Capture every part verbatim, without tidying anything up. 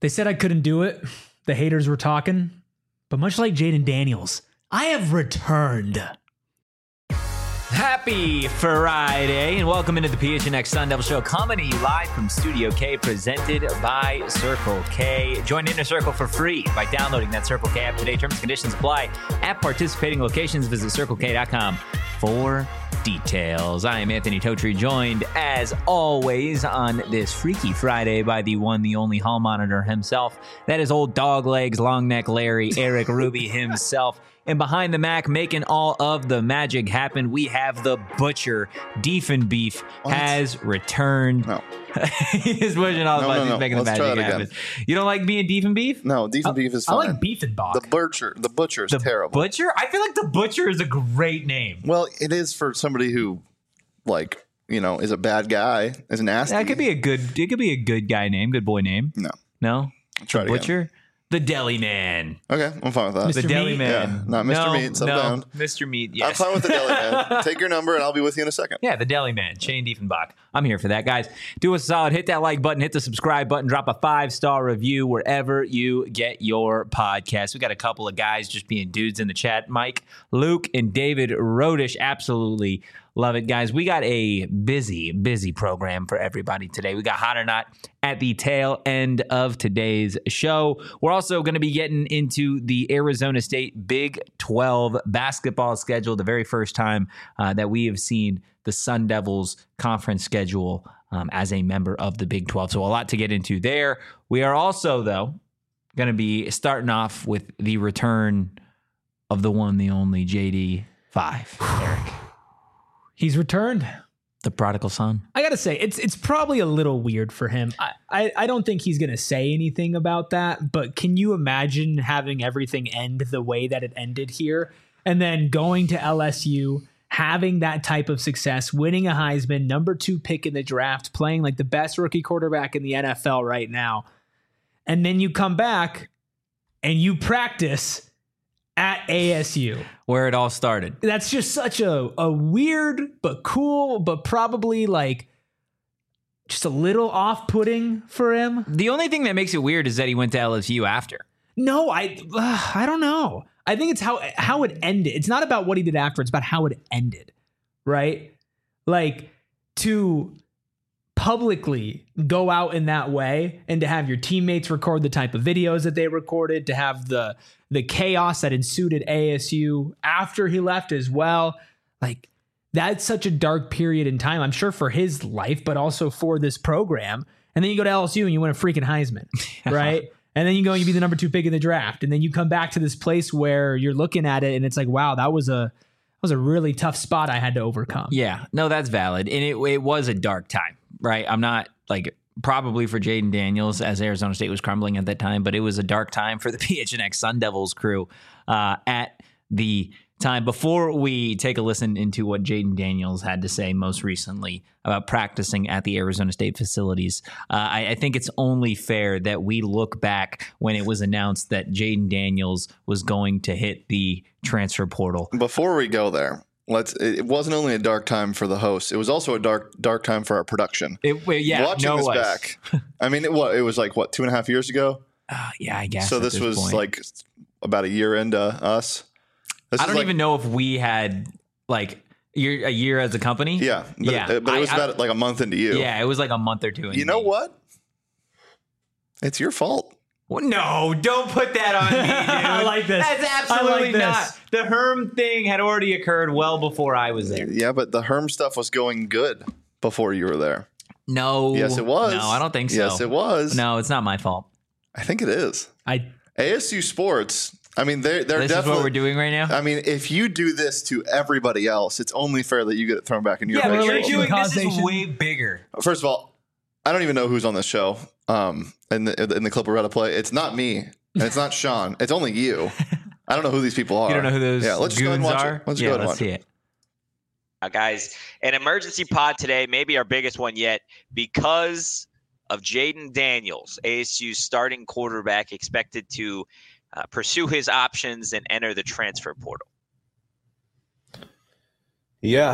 They said I couldn't do it. The haters were talking. But much like Jayden Daniels, I have returned. Happy Friday, and welcome into the P H N X Sun Devil Show, coming to you live from Studio K, presented by Circle K. Join Inner Circle for free by downloading that Circle K app today. Terms and conditions apply at participating locations. Visit circle k dot com for details. I am Anthony Totri, joined as always on this Freaky Friday by the one, the only hall monitor himself. That is old dog legs, long neck Larry, Eric Ruby himself. And behind the Mac, making all of the magic happen, we have the Butcher. Deef Beef what? has returned. No. He's pushing all the no, buttons. No, no. He's making Let's the magic happen. You don't like being Deef Beef? No, Deef Beef is fine. I like Beef and Bach. The Butcher, the Butcher is the terrible. Butcher? I feel like the Butcher is a great name. Well, it is for somebody who, like, you know, is a bad guy, is nasty. That could be a good. It could be a good guy name, good boy name. No, no. I'll try the it Butcher. Again. The Deli Man. Okay, I'm fine with that. The Mister Deli Meat? Man. Yeah, not Mister No, Meat. Settle no. down. Mister Meat, yes. I'm fine with the Deli Man. Take your number and I'll be with you in a second. Yeah, the Deli Man, Shane Diefenbach. I'm here for that, guys. Do us a solid. Hit that like button. Hit the subscribe button. Drop a five-star review wherever you get your podcast. We got a couple of guys just being dudes in the chat. Mike, Luke, and David Rodish. Absolutely love it, guys. We got a busy, busy program for everybody today. We got Hot or Not at the tail end of today's show. We're also going to be getting into the Arizona State Big twelve basketball schedule, the very first time uh, that we have seen the Sun Devils conference schedule um, as a member of the Big twelve. So a lot to get into there. We are also, though, going to be starting off with the return of the one, the only J D five, Eric. He's returned. The prodigal son. I gotta say, it's it's probably a little weird for him. I, I, I don't think he's gonna say anything about that, but can you imagine having everything end the way that it ended here? And then going to L S U, having that type of success, winning a Heisman, number two pick in the draft, playing like the best rookie quarterback in the N F L right now. And then you come back and you practice at A S U. Where it all started. That's just such a, a weird but cool, but probably like just a little off-putting for him. The only thing that makes it weird is that he went to L S U after. No, I uh, I don't know. I think it's how how it ended. It's not about what he did after. It's about how it ended, right? Like to publicly go out in that way and to have your teammates record the type of videos that they recorded, to have the the chaos that ensued at A S U after he left as well. Like that's such a dark period in time, I'm sure, for his life, but also for this program. And then you go to L S U and you win a freaking Heisman, right? And then you go and you be the number two pick in the draft. And then you come back to this place where you're looking at it and it's like, wow, that was a that was a really tough spot I had to overcome. Yeah, no, that's valid. And it it was a dark time, right? I'm not like probably for Jayden Daniels as Arizona State was crumbling at that time, but it was a dark time for the P H N X Sun Devils crew uh, at the time. Before we take a listen into what Jayden Daniels had to say most recently about practicing at the Arizona State facilities, uh, I, I think it's only fair that we look back when it was announced that Jayden Daniels was going to hit the transfer portal. Before we go there, let's. It wasn't only a dark time for the host; it was also a dark, dark time for our production. It, well, yeah, watching no this was. back. I mean, it, what it was like what two and a half years ago. Uh, yeah, I guess. So this, this was point. like about a year into us. This I don't like, even know if we had like year, a year as a company. Yeah, but yeah, it, but it was I, about I, like a month into you. Yeah, it was like a month or two. Into You know me. what? It's your fault. Well, no, don't put that on me, dude. I like this. That's absolutely like this. not. The Herm thing had already occurred well before I was there. Yeah, but the Herm stuff was going good before you were there. No. Yes, it was. No, I don't think so. Yes, it was. No, it's not my fault. I think it is. I A S U sports. I mean, they're they're This definitely is what we're doing right now. I mean, if you do this to everybody else, it's only fair that you get it thrown back in your Yeah, but face. you're Correlation doing this is causation. way bigger. First of all, I don't even know who's on this show. Um, in the in the clip we're about to play, it's not me and it's not Sean. It's only you. I don't know who these people are. You don't know who those Yeah, let's just go ahead and goons watch are? it. Let's yeah, go ahead and let's watch see it. it. Uh, guys, an emergency pod today, maybe our biggest one yet, because of Jayden Daniels, A S U's starting quarterback, expected to uh, pursue his options and enter the transfer portal. Yeah.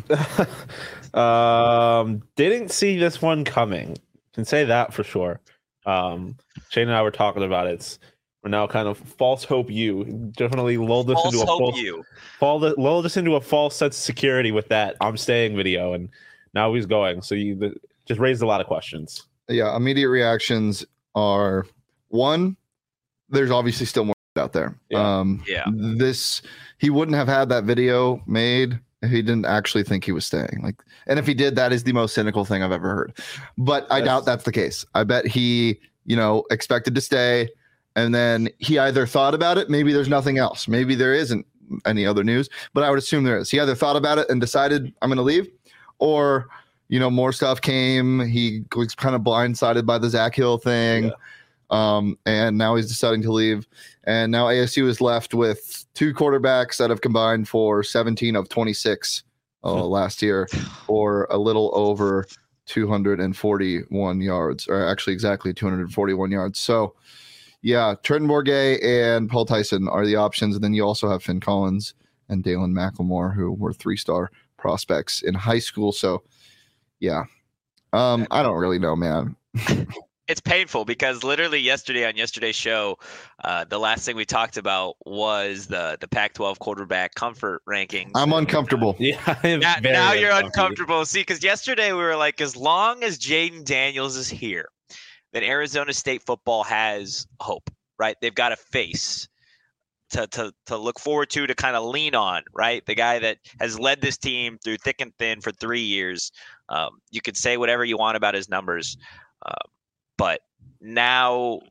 um, didn't see this one coming. Can say that for sure. Um, Shane and I were talking about it. It's, we're now kind of false hope you definitely lulled us False into a hope false, you. false lulled us into a false sense of security with that I'm staying video, and now he's going. So you the, just raised a lot of questions. Yeah, immediate reactions are one, there's obviously still more out there. Yeah. Um, Yeah. This he wouldn't have had that video made if he didn't actually think he was staying. Like, and if he did, that is the most cynical thing I've ever heard. But I Yes. doubt that's the case. I bet he, you know, expected to stay, and then he either thought about it. Maybe there's nothing else. Maybe there isn't any other news. But I would assume there is. He either thought about it and decided I'm going to leave, or you know, more stuff came. He was kind of blindsided by the Zach Hill thing. Yeah. Um, and now he's deciding to leave. And now A S U is left with two quarterbacks that have combined for seventeen of twenty-six uh, last year, or a little over two hundred forty-one yards, or actually exactly two hundred forty-one yards. So, yeah, Trenton Bourguet and Paul Tyson are the options. And then you also have Finn Collins and Dalen McLemore, who were three-star prospects in high school. So, yeah, um, I don't really know, man. It's painful because literally yesterday on yesterday's show, uh, the last thing we talked about was the the Pac twelve quarterback comfort rankings. I'm uncomfortable. Yeah, I'm Now, very now you're uncomfortable. uncomfortable. See, because yesterday we were like, as long as Jaden Daniels is here, then Arizona State football has hope, right? They've got a face to to to look forward to, to kind of lean on, right? The guy that has led this team through thick and thin for three years. Um, you could say whatever you want about his numbers, uh, but now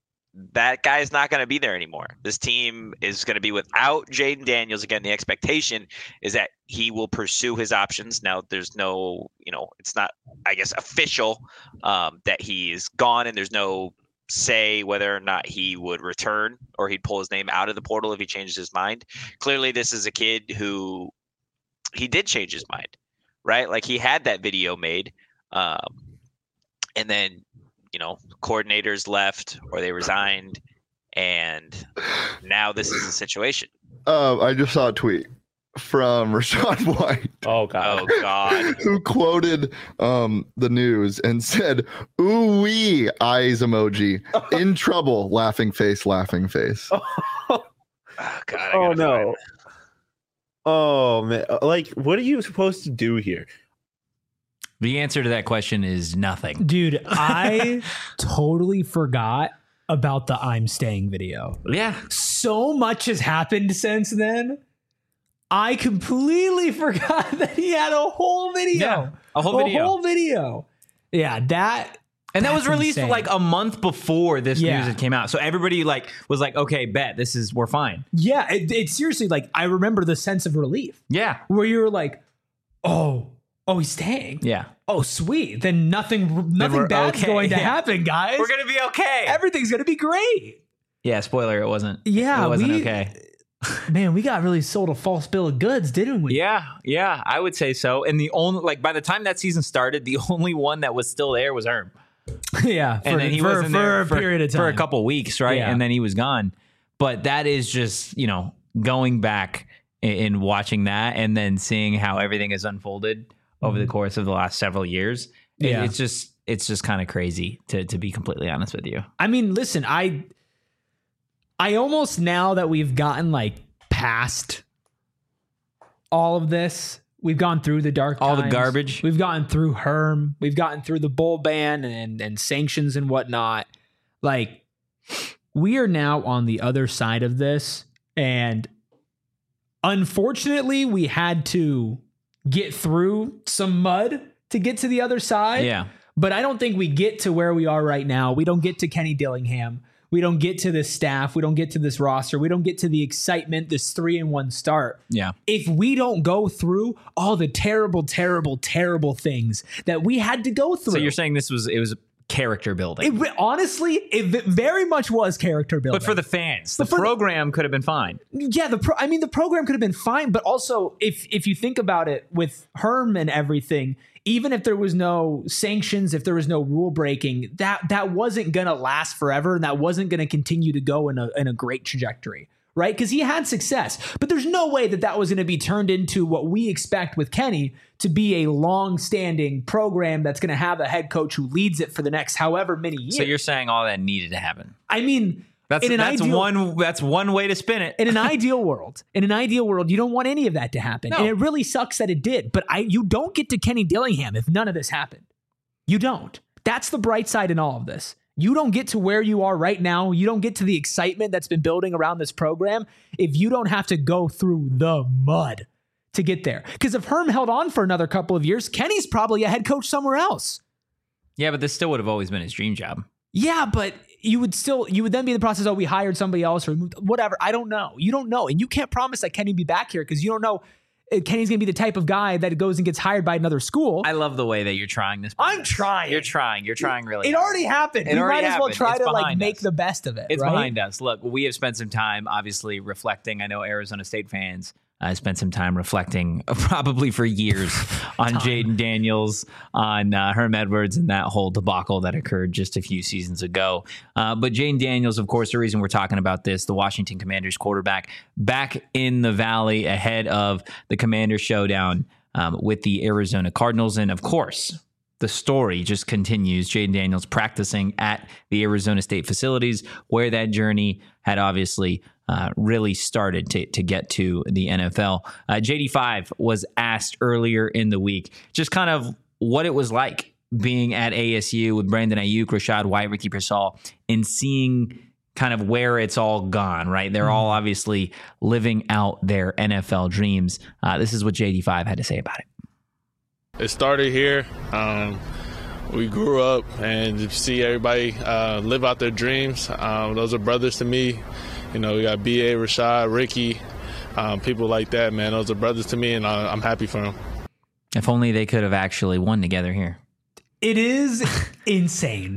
that guy's not going to be there anymore. This team is going to be without Jaden Daniels. Again, the expectation is that he will pursue his options. Now, there's no, you know, it's not, I guess, official um, that he is gone, and there's no say whether or not he would return or he'd pull his name out of the portal if he changed his mind. Clearly, this is a kid who he did change his mind, right? Like, he had that video made, um, and then, you know, coordinators left or they resigned, and now this is the situation. Uh, I just saw a tweet from Rachaad White. Oh god. Oh God. Who quoted um, the news and said, "Ooh wee, eyes emoji, in trouble, laughing face, laughing face." Oh, Oh, God, I oh gotta no. find Oh man. Like, what are you supposed to do here? The answer to that question is nothing. Dude, I totally forgot about the I'm staying video. Yeah. So much has happened since then. I completely forgot that he had a whole video. Yeah, a whole video. A whole video. Yeah, that And that was That's released insane. like a month before this Yeah. news had came out. So everybody like was like, okay, bet this is we're fine. yeah, it, it seriously, like, I remember the sense of relief Yeah. where you were like, oh, oh, he's staying. Yeah. Oh, sweet. Then nothing we're nothing bad's okay. going to Yeah. happen, guys. We're gonna be okay. Everything's gonna be great. yeah, spoiler, it wasn't. Yeah, It wasn't we, okay. Man, we got really sold a false bill of goods, didn't we? Yeah, yeah, I would say so. And the only like by the time that season started, the only one that was still there was Herm. yeah. For, And then he for, wasn't for there a for, period of time. for a couple weeks, right? Yeah. And then he was gone. But that is just, you know, going back and watching that and then seeing how everything has unfolded over the course of the last several years. it- Yeah. it's just it's just kind of crazy to to be completely honest with you. I mean, listen, I I almost, now that we've gotten like past all of this, we've gone through the dark All the times. garbage. We've gotten through Herm. We've gotten through the bowl ban and and sanctions and whatnot. Like, we are now on the other side of this, and unfortunately, we had to get through some mud to get to the other side. Yeah. But I don't think we get to where we are right now. We don't get to Kenny Dillingham. We don't get to this staff. We don't get to this roster. We don't get to the excitement, this three and one start. Yeah. If we don't go through all the terrible, terrible, terrible things that we had to go through. So you're saying this was it was character building. it, re- honestly, it v- very much was character building. but for the fans, the But for the- program could have been fine. Yeah, the pro- I mean, the program could have been fine, but also if if you think about it, with Herm and everything, even if there was no sanctions, if there was no rule breaking, that that wasn't gonna last forever, and that wasn't gonna continue to go in a in a great trajectory, right? Because he had success. But there's no way that that was going to be turned into what we expect with Kenny to be a long-standing program that's going to have a head coach who leads it for the next however many years. So you're saying all that needed to happen? I mean, That's in an that's ideal, one that's one way to spin it. in an ideal world, in an ideal world, you don't want any of that to happen. No. And it really sucks that it did. But I you don't get to Kenny Dillingham if none of this happened. You don't. That's the bright side in all of this. You don't get to where you are right now. You don't get to the excitement that's been building around this program if you don't have to go through the mud to get there. Because if Herm held on for another couple of years, Kenny's probably a head coach somewhere else. Yeah, but this still would have always been his dream job. Yeah, but you would still, you would then be in the process, oh, we hired somebody else or moved, whatever. I don't know. You don't know. And you can't promise that Kenny will be back here because you don't know if Kenny's going to be the type of guy that goes and gets hired by another school. I love the way that you're trying this. I'm business. trying. You're trying. You're trying really It hard. already happened. It we already might as well happened. try It's to like behind make us. the best of it. It's right? behind us. Look, we have spent some time, obviously, reflecting. I know Arizona State fans uh, spent some time reflecting, probably for years, on Jaden Daniels, on uh, Herm Edwards, and that whole debacle that occurred just a few seasons ago. Uh, but Jaden Daniels, of course, the reason we're talking about this, the Washington Commanders quarterback, back in the Valley ahead of the Commander showdown um, with the Arizona Cardinals, and of course, the story just continues. Jaden Daniels practicing at the Arizona State facilities, where that journey had obviously uh, really started to, to get to the N F L. Uh, J D five was asked earlier in the week just kind of what it was like being at A S U with Brandon Ayuk, Rashad White, Ricky Pearsall, and seeing kind of where it's all gone, right? They're all obviously living out their N F L dreams. Uh, this is what J D five had to say about it. It started here. Um, we grew up, and to see everybody uh, live out their dreams, um, those are brothers to me. You know, we got B A, Rashad, Ricky, um, people like that, man. Those are brothers to me, and I, I'm happy for them. If only they could have actually won together here. It is insane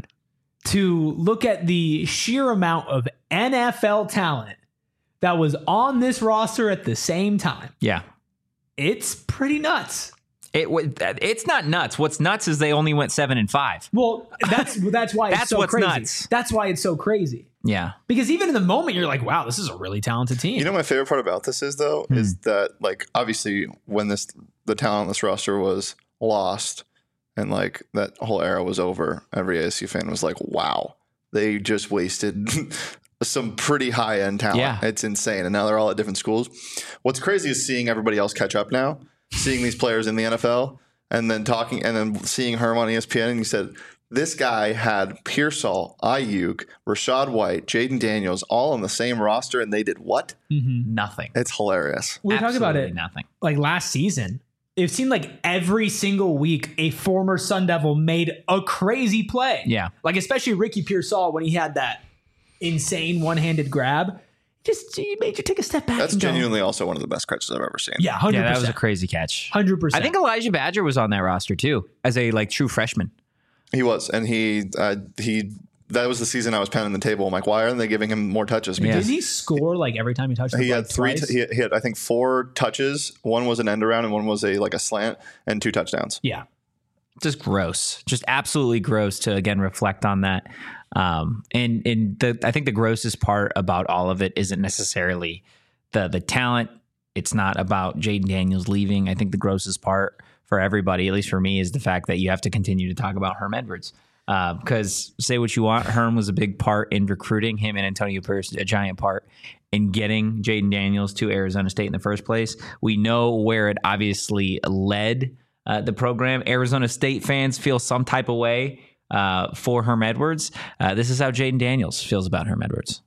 to look at the sheer amount of N F L talent that was on this roster at the same time. Yeah. It's pretty nuts. It it's not nuts. What's nuts is they only went seven and five. Well, that's that's why it's That's so what's crazy. nuts. That's why it's so crazy. Yeah. Because even in the moment, you're like, wow, this is a really talented team. You know, my favorite part about this is though, Hmm. is that like obviously when this the talent on this roster was lost and like that whole era was over, every A S U fan was like, wow, they just wasted some pretty high end talent. Yeah. It's insane. And now they're all at different schools. What's crazy is seeing everybody else catch up now, seeing these players in the N F L and then talking and then seeing Herm on E S P N and he said, this guy had Pearsall, Ayuk, Rashad White, Jaden Daniels all on the same roster, and they did what? Mm-hmm. Nothing. It's hilarious. We were talking about Absolutely it Nothing. like last season. It seemed like every single week a former Sun Devil made a crazy play. Yeah. Like especially Ricky Pearsall when he had that insane one-handed grab. Just he made you take a step back. That's and go, genuinely also one of the best catches I've ever seen. Yeah, one hundred Yeah, percent. that was a crazy catch. one hundred percent. I think Elijah Badger was on that roster too, as a like true freshman. He was, and he uh, he. That was the season I was pounding the table. I'm like, why aren't they giving him more touches? Yeah. Did he score like every time he touched the He ball had three. twice? T- he, he had, I think, four touches. One was an end around, and one was a like a slant, and two touchdowns. Yeah. Just gross. Just absolutely gross to again reflect on that. Um, and and the I think the grossest part about all of it isn't necessarily the the talent. It's not about Jaden Daniels leaving. I think the grossest part for everybody, at least for me, is the fact that you have to continue to talk about Herm Edwards. Uh, because say what you want, Herm was a big part in recruiting him and Antonio Pierce, a giant part in getting Jaden Daniels to Arizona State in the first place. We know where it obviously led uh, the program. Arizona State fans feel some type of way uh, for Herm Edwards. Uh, this is how Jaden Daniels feels about Herm Edwards.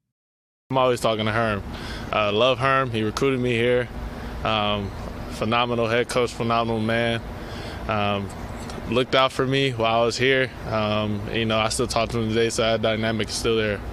I'm always talking to Herm. Uh, love Herm. He recruited me here. Um, phenomenal head coach, phenomenal man. Um, looked out for me while I was here. Um, you know, I still talk to him today, so that dynamic is still there.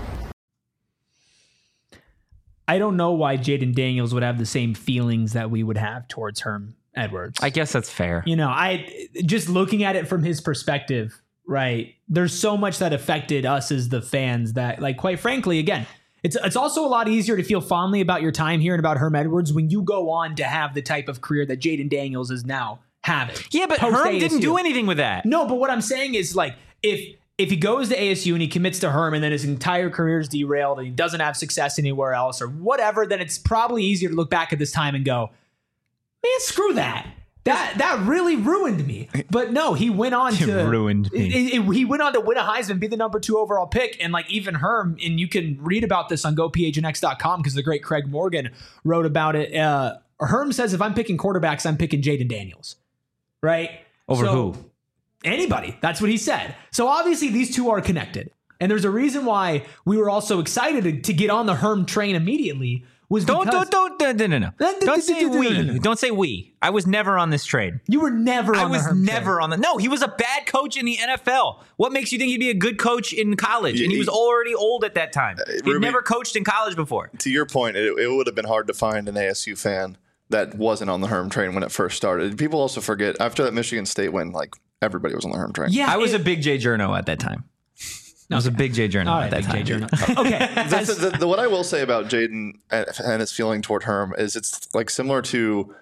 I don't know why Jaden Daniels would have the same feelings that we would have towards Herm Edwards. I guess that's fair. You know, I just looking at it from his perspective, right? There's so much that affected us as the fans that, like, quite frankly, again, it's it's also a lot easier to feel fondly about your time here and about Herm Edwards when you go on to have the type of career that Jaden Daniels is now having. Yeah, but Post Herm A S U. didn't do anything with that. No, but what I'm saying is, like, if if he goes to A S U and he commits to Herm and then his entire career is derailed and he doesn't have success anywhere else or whatever, then it's probably easier to look back at this time and go, man, screw that. That that really ruined me. But no, he went on It to ruined me. it- it- he went on to win a Heisman, be the number two overall pick, and like even Herm, and you can read about this on go p h n x dot com because the great Craig Morgan wrote about it. Uh, Herm says if I'm picking quarterbacks, I'm picking Jaden Daniels, right? Over So- who? Anybody. That's what he said. So obviously these two are connected. And there's a reason why we were all so excited to, to get on the Herm train immediately was Don't because don't don't no no no. no. Don't say we. Don't say we. I was never on this trade. you were never on I the was Herm never train. on the. No, he was a bad coach in the N F L. What makes you think he'd be a good coach in college? And he was already old at that time. He'd Ruby- never coached in college before. To your point, it, it would have been hard to find an A S U fan that wasn't on the Herm train when it first started. People also forget after that Michigan State win, like everybody was on the Herm train. Yeah. I was it- a big Jay Journo at that time. I was a big Jay Journo all at right, that Big time. J Journo. Okay. That's, the, the, what I will say about Jaden and, and his feeling toward Herm is it's like similar to.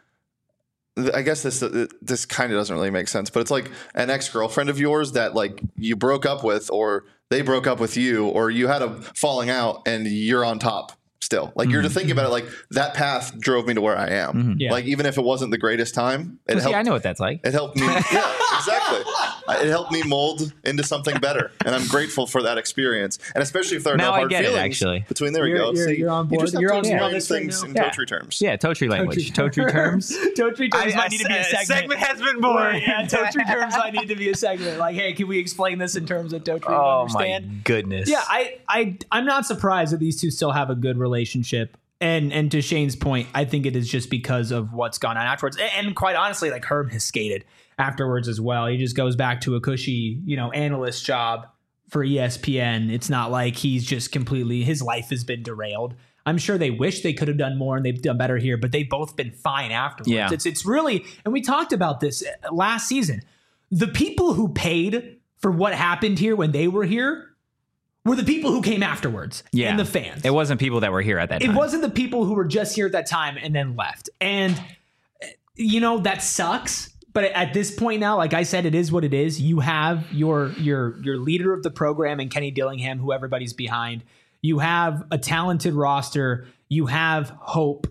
I guess this this kind of doesn't really make sense, but it's like an ex girlfriend of yours that like you broke up with, or they broke up with you, or you had a falling out, and you're on top still. Like you're to think about it, like that path drove me to where I am. Yeah. Like even if it wasn't the greatest time, it Well, see, helped. I know what that's like. It helped me. Yeah, exactly. It helped me mold into something better, and I'm grateful for that experience. And especially if there are Now no I hard get it, feelings actually. between. There we You're- go. you're- See, you're on you board. just have You're to on- you're on explain this right things now. in Yeah. Totri terms. Yeah, Totri language. Totri terms. Totri terms I- might I- need to be a a segment. segment has been born. Yeah, Totri terms might need to be a segment. Like, hey, can we explain this in terms of Totri? Oh understand? my goodness. Yeah, I, I, I'm not surprised that these two still have a good relationship. And and to Shane's point, I think it is just because of what's gone on afterwards. And, and quite honestly, like Herm has skated afterwards as well. He just goes back to a cushy, you know, analyst job for E S P N. It's not like he's just completely, his life has been derailed. I'm sure they wish they could have done more and they've done better here, but they've both been fine afterwards. Yeah. It's it's really, and we talked about this last season. The people who paid for what happened here when they were here were the people who came afterwards Yeah. and the fans. It wasn't people that were here at that It time. wasn't the people who were just here at that time and then left. And, you know, that sucks. But at this point now, like I said, it is what it is. You have your your your leader of the program and Kenny Dillingham, who everybody's behind. You have a talented roster. You have hope.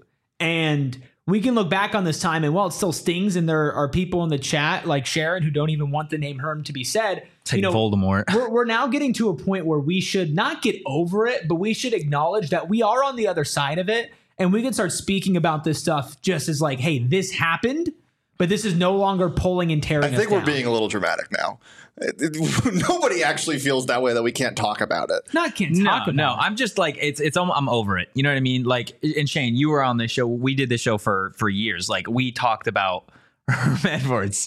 And we can look back on this time and while it still stings and there are people in the chat like Sharon who don't even want the name Herm to be said. It's like you know, Voldemort. we're, we're now getting to a point where we should not get over it, but we should acknowledge that we are on the other side of it. And we can start speaking about this stuff just as like, hey, this happened, but this is no longer pulling and tearing I think us we're down. being a little dramatic now. It- it- nobody actually feels that way that we can't talk about it. Not can't No, talk about no, it. I'm just like it's it's almo- I'm over it. You know what I mean? Like, and Shane, you were on this show. We did this show for for years. Like, we talked about Herm Edwards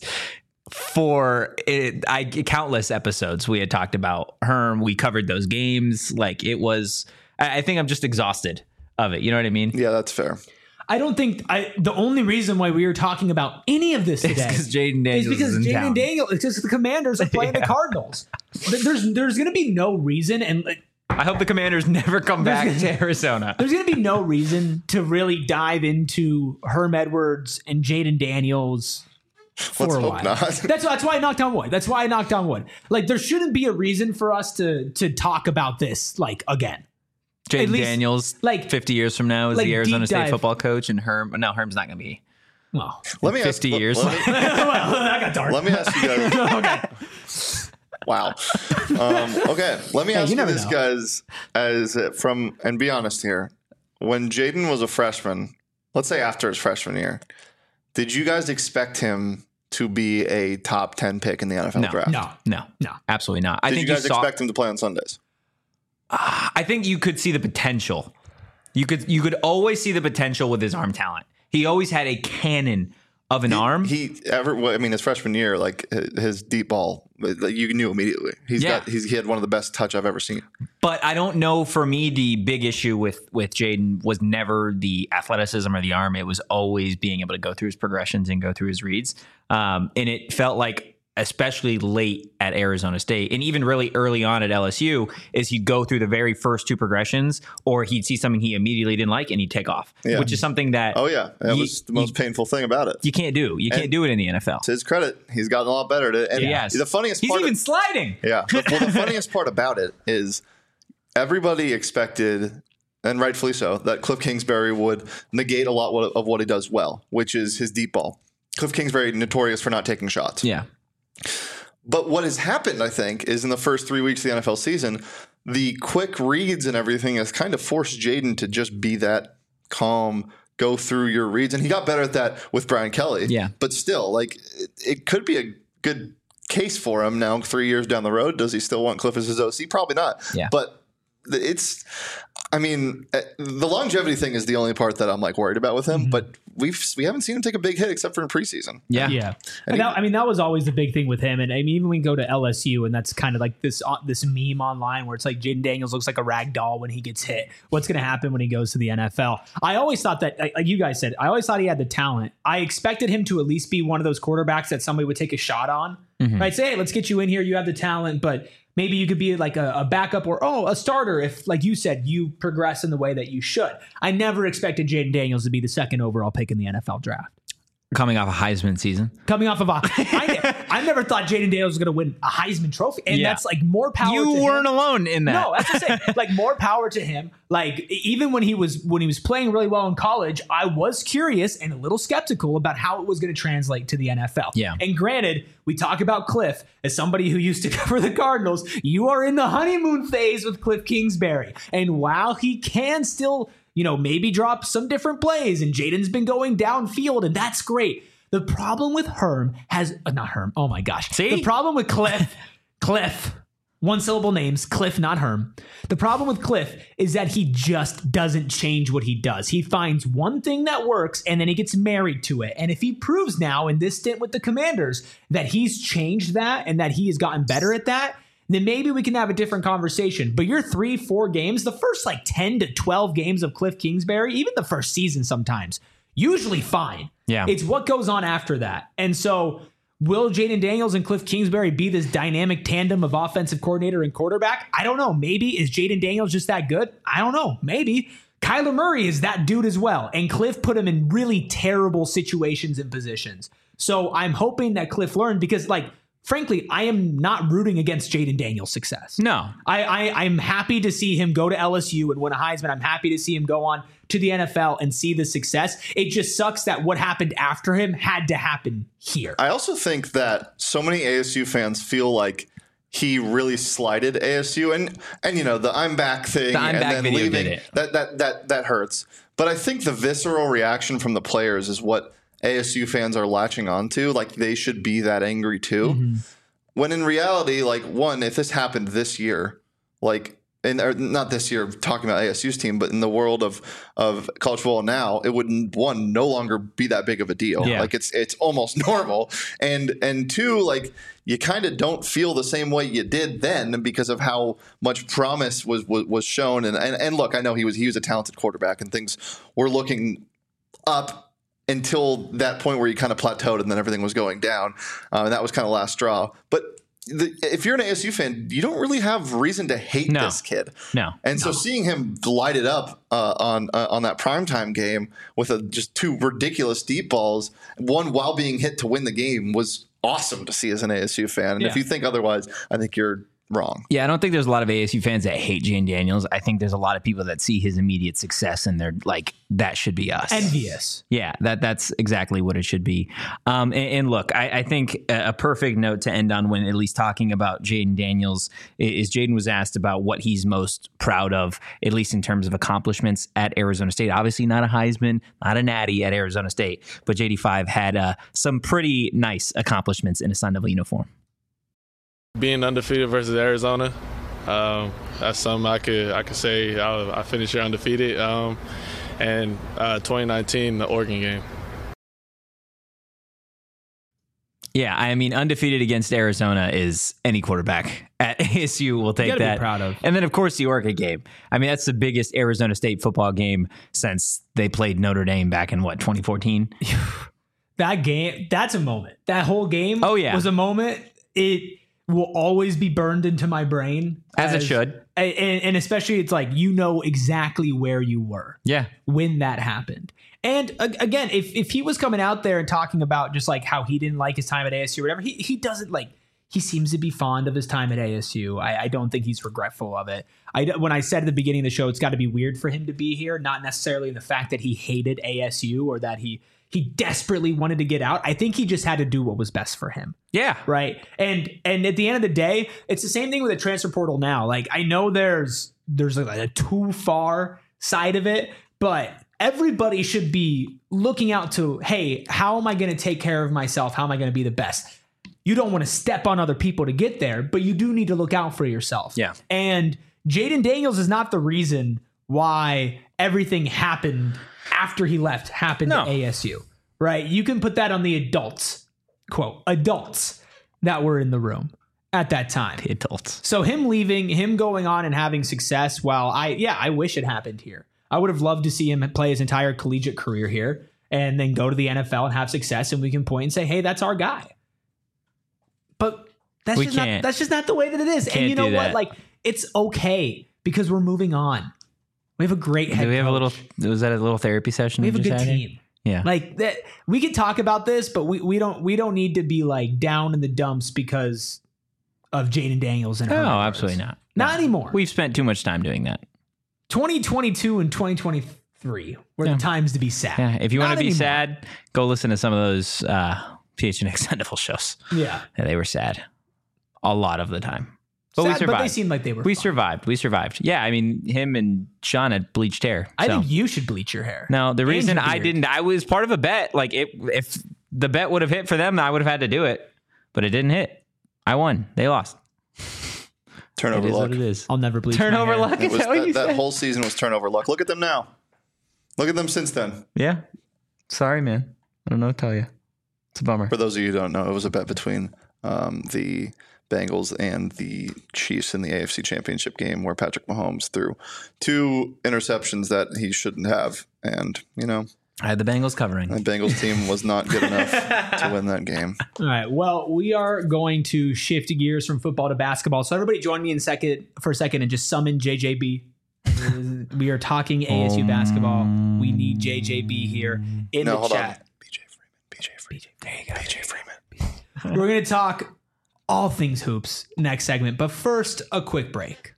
for it, I countless episodes. We had talked about Herm. We covered those games. Like, it was. I I think I'm just exhausted of it. You know what I mean? Yeah, that's fair. I don't think I. The only reason why we were talking about any of this It's today because Jaden Daniels is because is in Jaden town. Daniels. It's because the Commanders are playing the Yeah. Cardinals. There's there's going to be no reason, and like, I hope the Commanders never come back to Arizona. there's going to be no reason to really dive into Herm Edwards and Jaden Daniels for Let's a hope while. not. That's that's why I knocked on wood. That's why I knocked on wood. Like there shouldn't be a reason for us to to talk about this like again. At Jaden least, Daniels, like- fifty years from now, is like the Arizona deep State dive. football coach, and Herm. No, Herm's not going to be. Well, Let me ask- fifty let- years. Let, me, well, that got dark. let me ask you guys. okay. Wow. Um, okay. Let me Hey, ask you you, never this, know. guys, as uh, from and be honest here. When Jaden was a freshman, let's say after his freshman year, did you guys expect him to be a top ten pick in the N F L No, draft? No. No, No. absolutely not. I Did think you guys saw, expect him to play on Sundays? I think you could see the potential. You could you could always see the potential with his arm talent. He always had a cannon of an He- arm. He ever? well, I mean, his freshman year, like his- his deep ball, like, you knew immediately. He's Yeah. got. He's, he had one of the best touch I've ever seen. But I don't know. For me, the big issue with with Jaden was never the athleticism or the arm. It was always being able to go through his progressions and go through his reads. Um, and it felt like especially late at Arizona State and even really early on at L S U, is he'd go through the very first two progressions, or he'd see something he immediately didn't like and he'd take off, Yeah. which is something that Oh yeah, that you- was the most you- painful thing about it. you can't do. You can't And- do it in the N F L. To his credit, he's gotten a lot better at it. And Yes. the funniest He's part even of, sliding. yeah, well, the funniest part about it is everybody expected, and rightfully so, that Cliff Kingsbury would negate a lot of what he does well, which is his deep ball. Cliff Kingsbury notorious for not taking shots. Yeah. But what has happened, I think, is in the first three weeks of the N F L season, the quick reads and everything has kind of forced Jaden to just be that calm, go through your reads. And he got better at that with Brian Kelly. Yeah. But still, like, it, it could be a good case for him now, three years down the road. Does he still want Cliff as his O C? Probably not. Yeah. But it's, I mean, uh, the longevity thing is the only part that I'm like worried about with him. Mm-hmm. But we've we haven't seen him take a big hit except for in preseason. Yeah. Yeah, And and that, I mean that was always the big thing with him. And I mean even when we go to L S U, and that's kind of like this uh, this meme online where it's like Jaden Daniels looks like a rag doll when he gets hit. What's going to happen when he goes to the N F L? I always thought that, like like you guys said, I always thought he had the talent. I expected him to at least be one of those quarterbacks that somebody would take a shot on. Mhm. Right? Say, hey, let's get you in here. You have the talent, but maybe you could be like a, a backup or, oh, a starter if, like you said, you progress in the way that you should. I never expected Jaden Daniels to be the second overall pick in the N F L draft. Coming off a Heisman season. Coming off of a, I, I never thought Jaden Daniels was going to win a Heisman Trophy, and Yeah. that's like more power. You to weren't him. alone in that. No, that's what I'm saying. Like more power to him. Like even when he was when he was playing really well in college, I was curious and a little skeptical about how it was going to translate to the N F L. Yeah. And granted, we talk about Cliff as somebody who used to cover the Cardinals. You are in the honeymoon phase with Cliff Kingsbury, and while he can still, you know, maybe drop some different plays, and Jaden's been going downfield, and that's great. The problem with Herm has uh, not Herm. Oh my gosh. See? The problem with Cliff, Cliff, one syllable names, Cliff, not Herm. The problem with Cliff is that he just doesn't change what he does. He finds one thing that works and then he gets married to it. And if he proves now in this stint with the Commanders that he's changed that and that he has gotten better at that, then maybe we can have a different conversation. But your three, four games, the first like ten to twelve games of Cliff Kingsbury, even the first season sometimes, usually fine. Yeah. It's what goes on after that. And so will Jaden Daniels and Cliff Kingsbury be this dynamic tandem of offensive coordinator and quarterback? I don't know. Maybe. Is Jaden Daniels just that good? I don't know. Maybe. Kyler Murray is that dude as well. And Cliff put him in really terrible situations and positions. So I'm hoping that Cliff learned because, like, frankly, I am not rooting against Jaden Daniels' success. No. I, I, I'm happy to see him go to L S U and win a Heisman. I'm happy to see him go on to the N F L and see the success. It just sucks that what happened after him had to happen here. I also think that so many A S U fans feel like he really slighted A S U, and and you know the I'm back thing, The I'm and back then video leaving did it. that that that that hurts. But I think the visceral reaction from the players is what A S U fans are latching onto. Like they should be that angry too. Mm-hmm. When in reality, like one, if this happened this year, like. And or not this year, talking about A S U's team, but in the world of of college football now, it would one no longer be that big of a deal. Yeah. Like it's it's almost normal, and and two, like you kind of don't feel the same way you did then because of how much promise was was, was shown. And, and and look, I know he was he was a talented quarterback, and things were looking up until that point where he kind of plateaued, and then everything was going down, uh, and that was kind of last straw. But The, if you're an A S U fan, you don't really have reason to hate No. this kid. No. And so seeing him light it up uh, on uh, on that primetime game with a, just two ridiculous deep balls, one while being hit to win the game, was awesome to see as an A S U fan. And if Yeah. you think otherwise, I think you're wrong. Yeah, I don't think there's a lot of A S U fans that hate Jaden Daniels. I think there's a lot of people that see his immediate success and they're like, that should be us. Envious. Yeah, that that's exactly what it should be. Um, and, and look, I, I think a a perfect note to end on when at least talking about Jaden Daniels is Jaden was asked about what he's most proud of, at least in terms of accomplishments at Arizona State. Obviously not a Heisman, not a natty at Arizona State, but J D five had uh, some pretty nice accomplishments in a Sun Devil uniform. Being undefeated versus Arizona, um, that's something I could I could say I, I finished here undefeated. Um, and uh, twenty nineteen, the Oregon game. Yeah, I mean, undefeated against Arizona is any quarterback at A S U will take gotta be that. proud of. And then, of course, the Oregon game. I mean, that's the biggest Arizona State football game since they played Notre Dame back in, what, twenty fourteen? that game, that's a moment. That whole game Oh, yeah. was a moment. It will always be burned into my brain. As it should. And, and especially it's like, you know exactly where you were Yeah. when that happened. And uh, again, if if he was coming out there and talking about just like how he didn't like his time at A S U or whatever, he, he doesn't like, he seems to be fond of his time at A S U. I, I don't think he's regretful of it. I, when I said at the beginning of the show, it's got to be weird for him to be here, not necessarily the fact that he hated A S U or that he he desperately wanted to get out. I think he just had to do what was best for him. Yeah. Right. And and at the end of the day, it's the same thing with the transfer portal now. Like, I know there's there's like a too far side of it, but everybody should be looking out to, hey, how am I going to take care of myself? How am I going to be the best? You don't want to step on other people to get there, but you do need to look out for yourself. Yeah. And Jaden Daniels is not the reason why everything happened after he left happened No. at A S U, right? You can put that on the adults, quote, adults that were in the room at that time. The adults. So him leaving, him going on and having success, while I, yeah, I wish it happened here. I would have loved to see him play his entire collegiate career here and then go to the N F L and have success, and we can point and say, hey, that's our guy. But that's We just not, can't. that's just not the way that it is. Can't And you know do what? that. Like, it's okay because we're moving on. We have a great head Do we have a coach. little, was that a little therapy session? We have a just good had here? team. Yeah. Like that, we could talk about this, but we, we don't we don't need to be like down in the dumps because of Jaden Daniels and No, Herman Burns. absolutely not. Not No. anymore. We've spent too much time doing that. twenty twenty-two and twenty twenty-three were Yeah. the times to be sad. Yeah. If you Not want to be anymore. sad, go listen to some of those uh, P H N X Extendable shows. Yeah, Yeah, they were sad a lot of the time. But sad, we survived. But they seemed like they were. we fun. survived. We survived. Yeah, I mean, him and Sean had bleached hair. I so. think you should bleach your hair. No, the And reason your I beard. didn't, I was part of a bet. Like, it, if the bet would have hit for them, I would have had to do it. But it didn't hit. I won. They lost. Turnover It is luck. what it is. I'll never bleach my Turnover hair. luck. It Is was that what that, you that said? whole season was turnover luck. Look at them now. Look at them since then. Yeah. Sorry, man. I don't know what to tell you. It's a bummer. For those of you who don't know, it was a bet between um, the Bengals and the Chiefs in the A F C Championship game where Patrick Mahomes threw two interceptions that he shouldn't have. And, you know, I had the Bengals covering. the Bengals team was not good enough to win that game. All right. Well, we are going to shift gears from football to basketball. So everybody join me in second for a second and just summon J J B. We are talking A S U basketball. We need J J B here in No, the hold chat. on. B J Freeman. B J Freeman. There you go. B J Freeman. We're going to talk all things hoops next segment. But first, a quick break.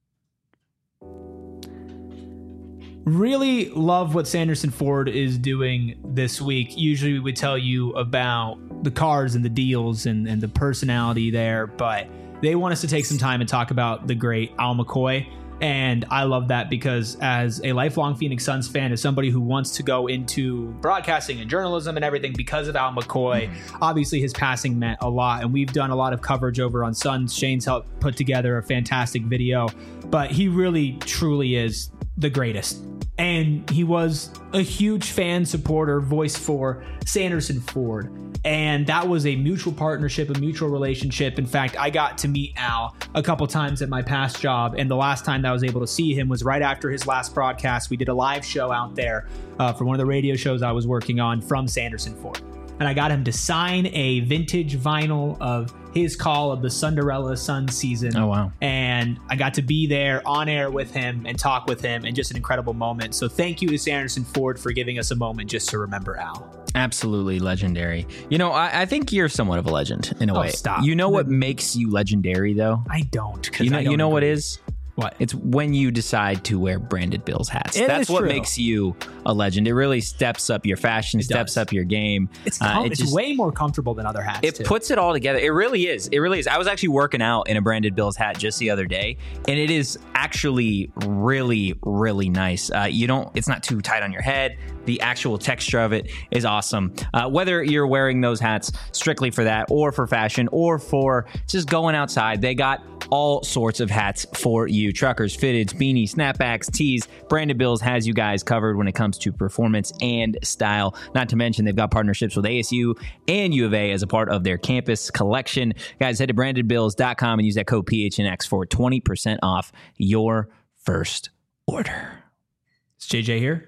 Really love what Sanderson Ford is doing this week. Usually we would tell you about the cars and the deals and, and the personality there, but they want us to take some time and talk about the great Al McCoy. And I love that because as a lifelong Phoenix Suns fan, as somebody who wants to go into broadcasting and journalism and everything because of Al McCoy, obviously his passing meant a lot. And we've done a lot of coverage over on Suns. Shane's helped put together a fantastic video, but he really, truly is the greatest. And he was a huge fan, supporter, voice for Sanderson Ford. And that was a mutual partnership, a mutual relationship. In fact, I got to meet Al a couple times at my past job. And the last time that I was able to see him was right after his last broadcast. We did a live show out there uh, for one of the radio shows I was working on from Sanderson Ford. And I got him to sign a vintage vinyl of his call of the Cinderella Sun season. Oh, wow. And I got to be there on air with him and talk with him, and just an incredible moment. So thank you to Sanderson Ford for giving us a moment just to remember Al. Absolutely legendary. You know, I, I think you're somewhat of a legend in a Oh, way. stop. You know what makes you legendary, though? I don't. 'cause You know, I don't you know what agree. is? What? It's when you decide to wear branded Bills hats. It That's is what true. makes you a legend. It really steps up your fashion, It steps does. up your game. It's, Uh, com- it it's just- way more comfortable than other hats. It too. puts it all together. It really is. It really is. I was actually working out in a branded Bills hat just the other day, and it is actually really, really nice. Uh, you don't. It's not too tight on your head. The actual texture of it is awesome. Uh, whether you're wearing those hats strictly for that, or for fashion, or for just going outside, they got all sorts of hats for you. Truckers, fitteds, beanies, snapbacks, tees. Branded Bills has you guys covered when it comes to performance and style. Not to mention they've got partnerships with A S U and U of A as a part of their campus collection. Guys, head to branded bills dot com and use that code P H N X for twenty percent off your first order. Is J J here?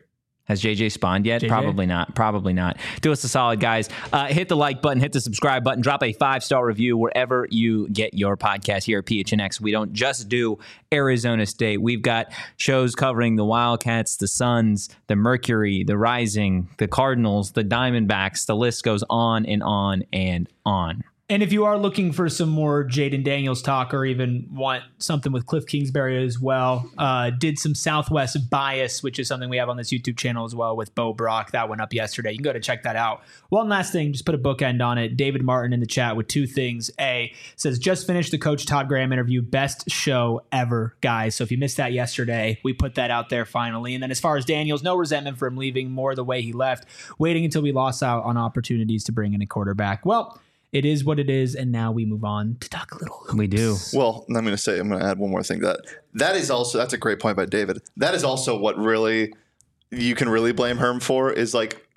Has J J spawned yet? J J? Probably not. Probably not. Do us a solid, guys. Uh, hit the like button, hit the subscribe button, drop a five-star review wherever you get your podcast here at P H N X. We don't just do Arizona State. We've got shows covering the Wildcats, the Suns, the Mercury, the Rising, the Cardinals, the Diamondbacks. The list goes on and on and on. And if you are looking for some more Jaden Daniels talk or even want something with Cliff Kingsbury as well, uh, did some Southwest bias, which is something we have on this YouTube channel as well with Bo Brock. That went up yesterday. You can go to check that out. One last thing, just put a bookend on it. David Martin in the chat with two things. A, says, just finished the Coach Todd Graham interview. Best show ever, guys. So if you missed that yesterday, we put that out there finally. And then as far as Daniels, no resentment for him leaving, more the way he left, waiting until we lost out on opportunities to bring in a quarterback. Well, it is what it is, and now we move on to talk a little hoops. We do. Well, I'm going to say, I'm going to add one more thing. That that is also, that's a great point by David. That is also what really, you can really blame Herm for is like,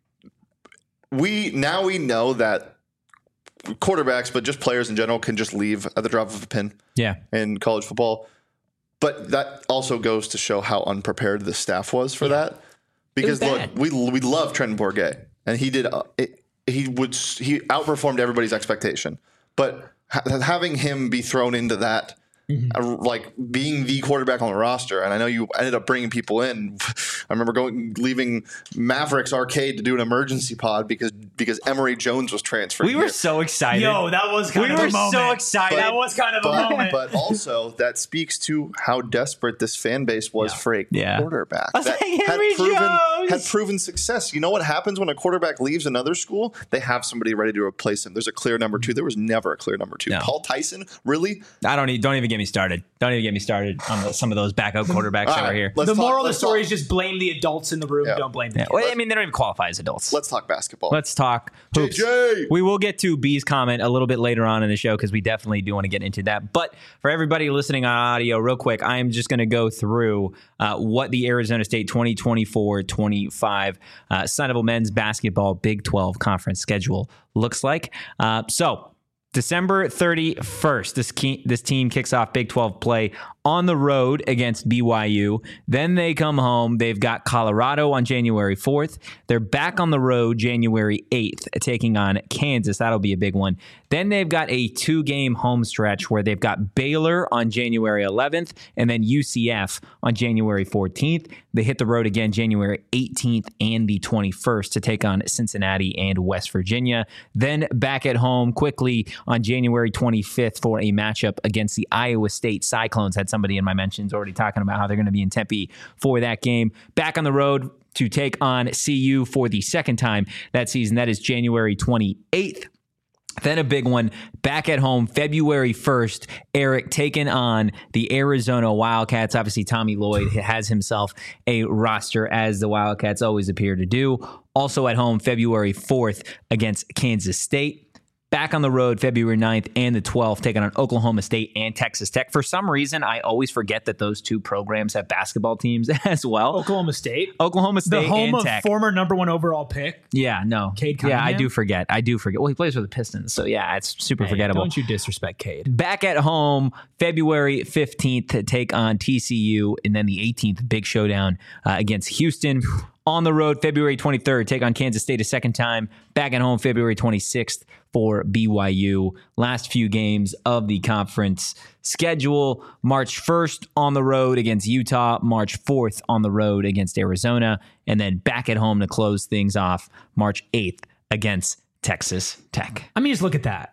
we, now we know that quarterbacks, but just players in general can just leave at the drop of a pin Yeah. in college football. But that also goes to show how unprepared the staff was for that. Because look, bad. we, we love Trenton Bourget, and he did, uh, it, he would he outperformed everybody's expectation, but ha- having him be thrown into that, mm-hmm. uh, like being the quarterback on the roster, and I know you ended up bringing people in. I remember going leaving Mavericks Arcade to do an emergency pod because because Emory Jones was transferred. We were here. so excited. Yo, that was kind we of were a moment. so excited. That was kind of but, a moment. But also that speaks to how desperate this fan base was Yeah. for a Yeah. quarterback I was that like, had Emory proven Jones. had proven success. You know what happens when a quarterback leaves another school? They have somebody ready to replace him. There's a clear number two. There was never a clear number two. No. Paul Tyson, really? I don't need, don't even get me started. Don't even get me started on the, some of those backup quarterbacks All that right, are here. let's the talk- moral of the let's story talk- is just blame the adults in the room. Yeah. Don't blame the Yeah. kids. Well, I mean, they don't even qualify as adults. Let's talk basketball. Let's talk hoops. J J! We will get to B's comment a little bit later on in the show because we definitely do want to get into that. But for everybody listening on audio, real quick, I am just going to go through uh, what the Arizona State twenty twenty-four twenty-five uh, Sun Devil men's basketball Big twelve conference schedule looks like. Uh, so December thirty-first, this key, this team kicks off Big twelve play on the road against B Y U. Then they come home. They've got Colorado on January fourth. They're back on the road January eighth, taking on Kansas. That'll be a big one. Then they've got a two-game home stretch where they've got Baylor on January eleventh and then U C F on January fourteenth. They hit the road again January eighteenth and the twenty-first to take on Cincinnati and West Virginia. Then back at home quickly on January twenty-fifth for a matchup against the Iowa State Cyclones. Had somebody in my mentions already talking about how they're going to be in Tempe for that game. Back on the road to take on C U for the second time that season. That is January twenty-eighth. Then a big one back at home, February first, Eric taking on the Arizona Wildcats. Obviously, Tommy Lloyd has himself a roster, as the Wildcats always appear to do. Also at home, February fourth against Kansas State. Back on the road, February ninth and the twelfth, taking on Oklahoma State and Texas Tech. For some reason, I always forget that those two programs have basketball teams as well. Oklahoma State, Oklahoma State the home and of Tech. former number one overall pick. Yeah, no. Cade yeah, I Cunningham? do forget. I do forget. Well, he plays for the Pistons, so yeah, it's super Hey, forgettable. Don't you disrespect Cade. Back at home, February fifteenth to take on T C U, and then the eighteenth, big showdown uh, against Houston. On the road, February twenty-third, take on Kansas State a second time. Back at home, February twenty-sixth for B Y U. Last few games of the conference schedule. March first on the road against Utah. March fourth on the road against Arizona. And then back at home to close things off, March eighth against Texas Tech. I mean, just look at that.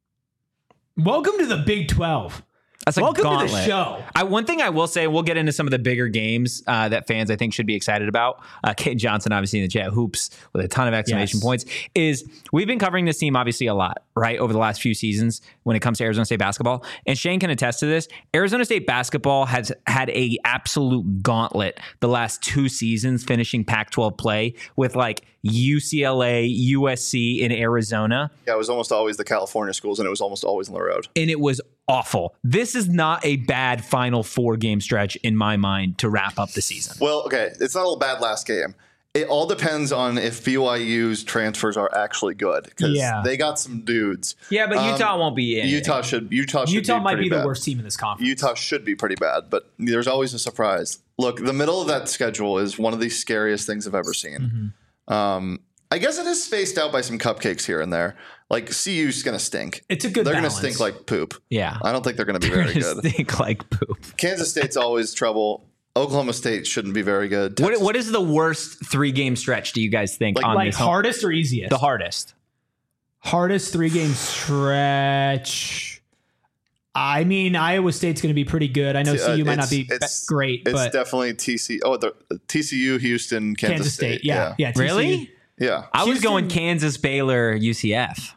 Welcome to the Big twelve. That's a Welcome gauntlet. to the show. I, one thing I will say, we'll get into some of the bigger games uh, that fans I think should be excited about. Uh, Kate Johnson, obviously in the chat, hoops with a ton of exclamation Yes. points, is we've been covering this team obviously a lot, right, over the last few seasons when it comes to Arizona State basketball. And Shane can attest to this. Arizona State basketball has had a absolute gauntlet the last two seasons finishing Pac twelve play with like U C L A, U S C, in Arizona. Yeah, it was almost always the California schools, and it was almost always on the road. And it was awful. This is not a bad Final Four game stretch in my mind to wrap up the season. Well, okay, it's not all bad last game. It all depends on if B Y U's transfers are actually good, because Yeah. they got some dudes. Yeah, but Um, Utah won't be in. Utah should Utah should Utah be might pretty be the bad. worst team in this conference. Utah should be pretty bad, but there's always a surprise. look, the middle of that schedule is one of the scariest things I've ever seen. Mm-hmm. Um, I guess it is spaced out by some cupcakes here and there. Like C U's going to stink. It's a good They're going to balance. stink like poop. Yeah. I don't think they're going to be They're very gonna good. Stink like poop. Kansas State's always trouble. Oklahoma State shouldn't be very good. What, Texas- what is the worst three game stretch do you guys think Like- on Like this home- hardest or easiest? the hardest? Hardest three game stretch. I mean, Iowa State's going to be pretty good. I know Uh, C U might not it's- be be- it's- great, It's but definitely T C. Oh, the T C U, Houston, Kansas, Kansas State. Yeah, yeah. T C U. Really? yeah. I was Houston- going Kansas, Baylor, U C F.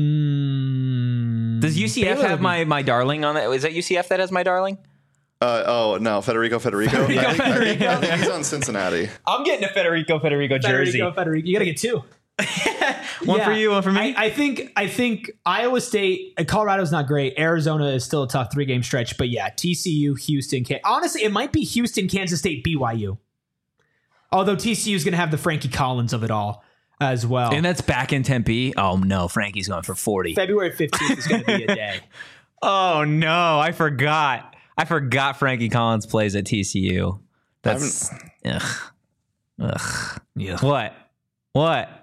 Mm, Does U C F Baylor have would my, my darling on it? Is that U C F that has my darling? Uh, oh no, Federico, Federico. Federico, I think, I think- Federico. I think he's on Cincinnati. I'm getting a Federico, Federico be Federico, Federico. You got to get two. One Yeah. for you, one for me. I, I think I think Iowa State, uh, Colorado's not great. Arizona is still a tough three game stretch, but yeah, T C U, Houston. Can- Honestly, it might be Houston, Kansas State, B Y U. Although T C U is going to have the Frankie Collins of it all as well. and that's back in Tempe. Oh no, Frankie's going for forty. February fifteenth is going to be a day. Oh no, I forgot. I forgot Frankie Collins plays at T C U. That's ugh. Ugh. Yeah. What? What?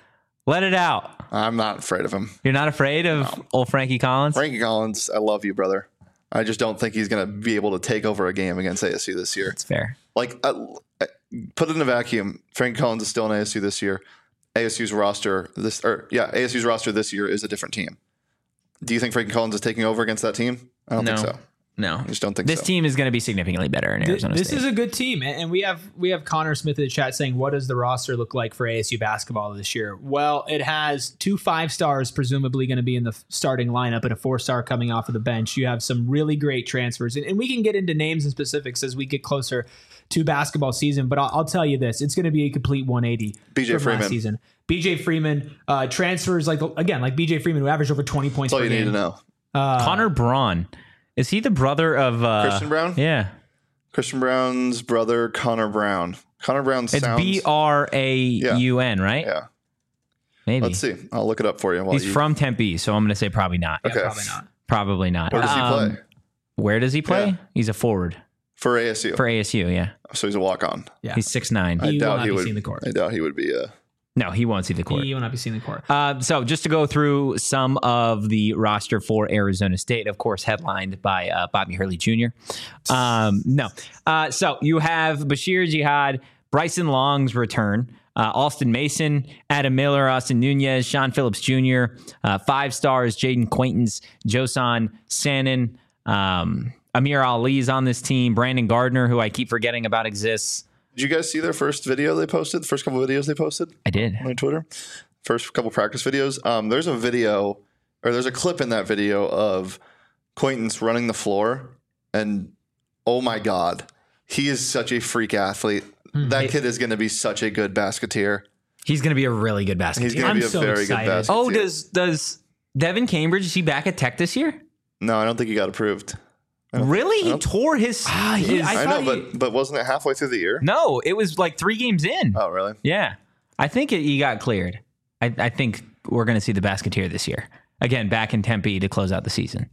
Let it out. I'm not afraid of him. You're not afraid of old Frankie Collins? Frankie Collins, I love you, brother. I just don't think he's going to be able to take over a game against A S U this year. That's fair. Like, uh, put it in a vacuum. Frankie Collins is still in A S U this year. A S U's roster this, or yeah, A S U's roster this year is a different team. Do you think Frankie Collins is taking over against that team? I don't No. think so. No. I just don't think This so. team is going to be significantly better in Th- Arizona This State. is a good team, and and we have we have Connor Smith in the chat saying, "What does the roster look like for A S U basketball this year?" Well, it has two five stars presumably going to be in the f- starting lineup, and a four star coming off of the bench. You have some really great transfers, and, and we can get into names and specifics as we get closer to basketball season. But I'll, I'll tell you this: it's going to be a complete one eighty. B J from Freeman. last season. B J Freeman uh, transfers like again like B J Freeman, who averaged over twenty points That's all per you game. need to know. Uh, Connor Braun. Is he the brother of uh, Christian Brown? Yeah. Christian Brown's brother, Connor Brown. Connor Brown It's sounds. B R A U N, right? Yeah. Maybe. Let's see. I'll look it up for you. While He's you, from Tempe, so I'm going to say probably not. Okay. Probably not. Probably not. Where does he Um, play? Where does he play? Yeah. He's a forward For A S U. for A S U, yeah. so he's a walk on. Yeah. He's six nine. I He will doubt not he be would. seeing the court. I doubt he would be. Uh, No, he won't see the court. He will not be seeing the court. Uh, so just to go through some of the roster for Arizona State, of course, headlined by uh, Bobby Hurley Junior Um, no. Uh, so you have Bashir Jihad, Bryson Long's return, uh, Austin Mason, Adam Miller, Austin Nunez, Sean Phillips Junior, uh, five stars, Jaden Quaintance, Josan Sanin, um, Amir Ali's on this team, Brandon Gardner, who I keep forgetting about exists. did you guys see their first video they posted? The first couple of videos they posted I did. on Twitter? First couple practice videos. Um, there's a video, or there's a clip in that video of Quaintance running the floor. And oh my God, he is such a freak athlete. That kid is going to be such a good basketeer. He's going to be a really good basketball. He's going to I'm be a so very excited. good basketeer. Oh, does does Devin Cambridge, is he back at Tech this year? No, I don't think he got approved. Really? He don't- tore his. Ah, he- his- I I, thought know, he- but but wasn't it halfway through the year? no, it was like three games in. Oh, really? Yeah. I think it, he got cleared. I, I think we're going to see the basketeer this year. Again, back in Tempe to close out the season.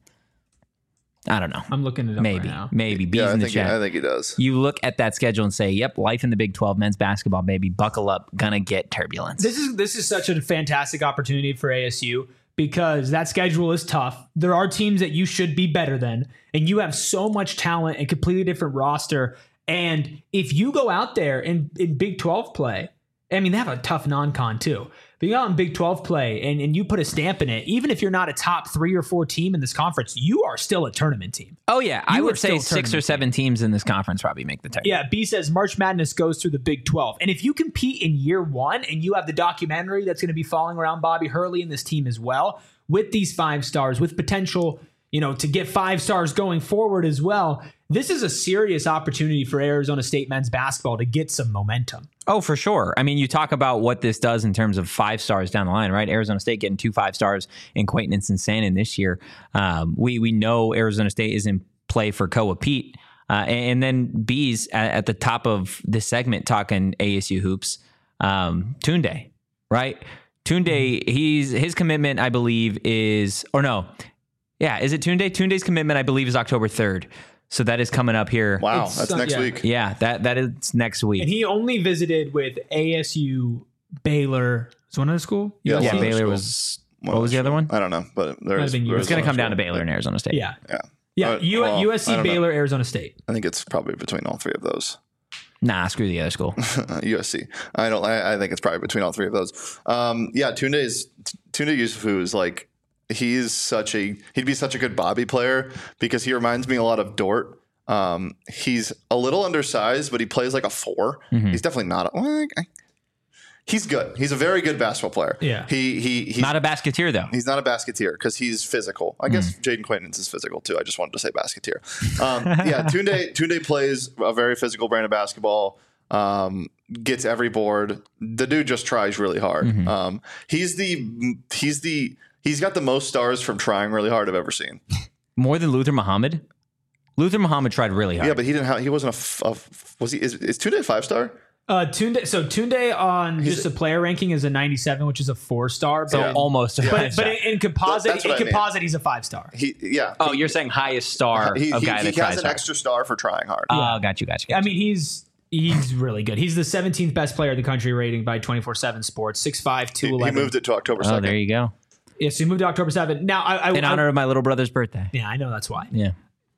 I don't know. I'm looking it up Maybe. right now. Maybe. Bees Yeah, I in the think he, chat. I think he does. You look at that schedule and say, yep, life in the Big twelve, men's basketball, baby. Buckle up. Gonna get turbulence. This is this is such a fantastic opportunity for A S U because that schedule is tough. There are teams that you should be better than, and you have so much talent and completely different roster. And if you go out there in, in Big twelve play, I mean, they have a tough non-con too. But you go out in Big twelve play and, and you put a stamp in it, even if you're not a top three or four team in this conference, you are still a tournament team. oh, yeah. I You are would say still six or tournament seven teams in this conference probably make the tournament. Yeah, B says March Madness goes through the Big twelve. And if you compete in year one and you have the documentary that's going to be following around Bobby Hurley and this team as well, with these five stars, with potential, you know, to get five stars going forward as well, this is a serious opportunity for Arizona State men's basketball to get some momentum. Oh, for sure. I mean, you talk about what this does in terms of five stars down the line, right? Arizona State getting two five stars in Quaintance and Sanin this year. Um, we we know Arizona State is in play for Koa Pete. Uh, and, and then B's at, at the top of this segment talking A S U hoops. Um, Tunde, right? Tunde, he's his commitment, I believe, is or no, yeah, is it Tunde? Tunde's commitment, I believe, is October third. So that is coming up here. Wow, It's, that's uh, next yeah. week. Yeah, that that is next week. And he only visited with A S U, Baylor. Is one other school? Yeah, yeah, one other Baylor school. was. One What was the other other one? I don't know, but there Might is. have been there U S is It's going to one come down to school. Baylor and Arizona State. Yeah. Yeah. Yeah. Uh, U- well, I U S C, don't know. Baylor, Arizona State. I think it's probably between all three of those. Nah, screw the other school. U S C. I don't. I, I think it's probably between all three of those. Um, yeah, Tunde is Tunde Yusufu is like he's such a he'd be such a good Bobby player because he reminds me a lot of Dort. Um, he's a little undersized, but he plays like a four. Mhm. He's definitely not. A, well, I- he's good. He's a very good basketball player. Yeah. He he he's Not a basketeer though. He's not a basketeer because he's physical. I guess Jaden Quaintance is physical too. I just wanted to say basketeer. Um, yeah, Tunde Tunde plays a very physical brand of basketball. Um, gets every board. The dude just tries really hard. Mhm. Um, he's the he's the he's got the most stars from trying really hard I've ever seen. More than Luther Muhammad. Luther Muhammad tried really hard. Yeah, but he didn't have. He wasn't a. f- a f- was he? Is, is Tunde a five star? Uh, Tunde, so Tunde on He's just a player ranking is a ninety-seven, which is a four star. But, so Yeah. almost. A but, five but star. in, in composite, That's in what I mean. composite, he's a five star. He yeah. oh, you're saying highest star he, of he, guy he that has tries an hard. extra star for trying hard. Oh, got you, got you. Got I you. mean, he's he's really good. He's the seventeenth best player in the country rating by twenty-four seven Sports. six five, he, two he eleven. moved it to October oh, second. there you go. Yeah, so he moved to October seventh. Now, I, I In I- honor of my little brother's birthday. yeah, I know that's why. Yeah.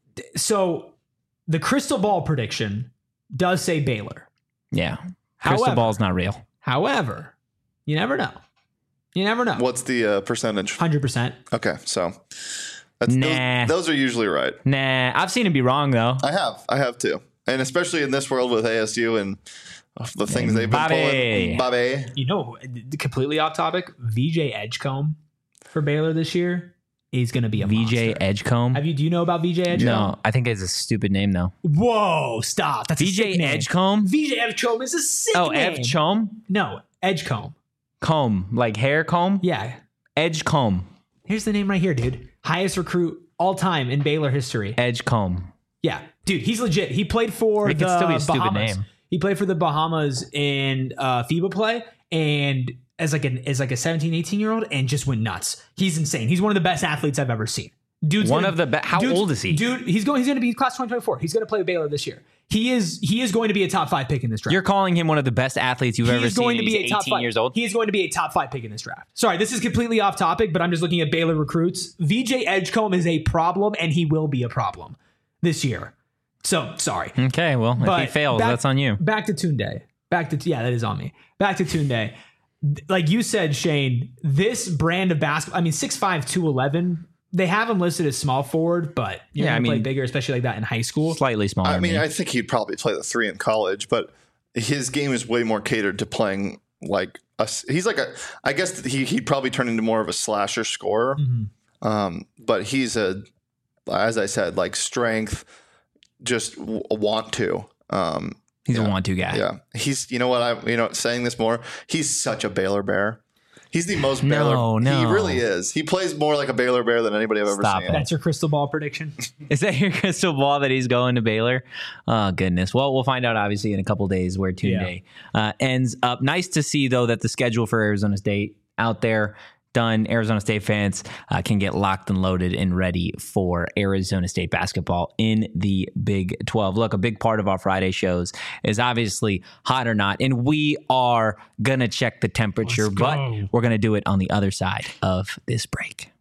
So the crystal ball prediction does say Baylor. Yeah. Crystal However- ball's not real. However, you never know. You never know. What's the uh, percentage? one hundred percent. Okay, so that's, Nah. those, those are usually right. Nah, I've seen him be wrong though. I have, I have too, and especially in this world with A S U and the things they've been Bobby. pulling. Bobby, You know, completely off topic, V J Edgecombe for Baylor this year is going to be a V J monster. Edgecombe. Have you do you know about V J Edgecombe? No, I think it's a stupid name though. Whoa, stop. That's a V J sick name. Edgecombe. V J Edgecombe is a sick Oh, name. Edgecombe. No, Edgecombe. Comb, like hair comb. Yeah. Edgecombe. Here's the name right here, dude. Highest recruit all time in Baylor history. Edgecombe. Yeah, dude, he's legit. He played for It the could still be a stupid Bahamas. name. He played for the Bahamas in uh, FIBA play, and as like an as like a seventeen, eighteen year old, and just went nuts. He's insane. He's one of the best athletes I've ever seen. Dude's One gonna- of the best. How dude's- old is he? Dude, he's going. He's going to be class twenty twenty-four. He's going to play with Baylor this year. He is. He is going to be a top five pick in this draft. You're calling him one of the best athletes you've he ever is seen. going and to be he's a top eighteen five. years old. He is going to be a top five pick in this draft. Sorry, this is completely off topic, but I'm just looking at Baylor recruits. V J Edgecombe is a problem, and he will be a problem this year. So sorry. Okay, well, if But he fails, back- that's on you. Back to Tunde. Back to yeah, that is on me. Back to Tunde. Like you said, Shane, this brand of basketball. I mean, six five, two eleven. They have him listed as small forward, but you're Yeah, gonna I play mean, bigger, especially like that in high school. Slightly smaller. I than mean, me. I think he'd probably play the three in college, but his game is way more catered to playing like a. He's like a. I guess he he'd probably turn into more of a slasher scorer. Mhm. Um, but he's a, as I said, like strength, just w- want to. Um, He's yeah. a want-to guy. Yeah, he's. You know what? I you know saying this more. He's such a Baylor Bear. He's the most No, Baylor. no. He really is. He plays more like a Baylor Bear than anybody I've ever Stop seen. it. That's your crystal ball prediction. Is that your crystal ball that he's going to Baylor? Oh, goodness. Well, we'll find out, obviously, in a couple days where Tunde uh, ends up. Nice to see, though, that the schedule for Arizona State out there done. Arizona State fans uh, can get locked and loaded and ready for Arizona State basketball in the Big twelve. Look, a big part of our Friday shows is obviously hot or not, and we are going to check the temperature, Let's but go. we're going to do it on the other side of this break.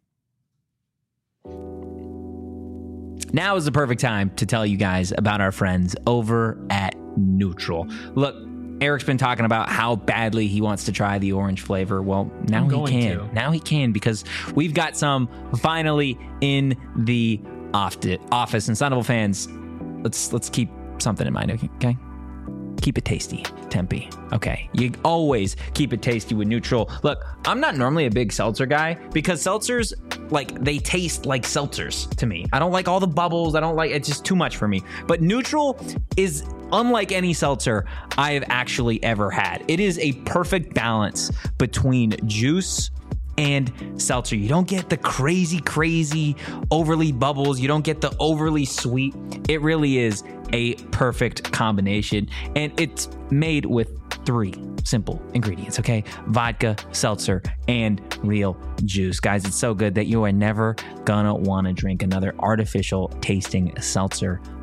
Now is the perfect time to tell you guys about our friends over at Neutral. Look, Eric's been talking about how badly he wants to try the orange flavor. Well, now I'm he going can. to. Now he can because we've got some finally in the office. And Sonable fans, let's let's keep something in mind, okay? Keep it tasty, Tempe. Okay, you always keep it tasty with Neutral. Look, I'm not normally a big seltzer guy because seltzers, like, they taste like seltzers to me. I don't like all the bubbles. I don't like, it's just too much for me. But Neutral is unlike any seltzer I have actually ever had. It is a perfect balance between juice and seltzer. You don't get the crazy, crazy overly bubbles. You don't get the overly sweet. It really is a perfect combination. And it's made with three simple ingredients, okay? Vodka, seltzer, and real juice. Guys, it's so good that you are never gonna wanna drink another artificial tasting seltzer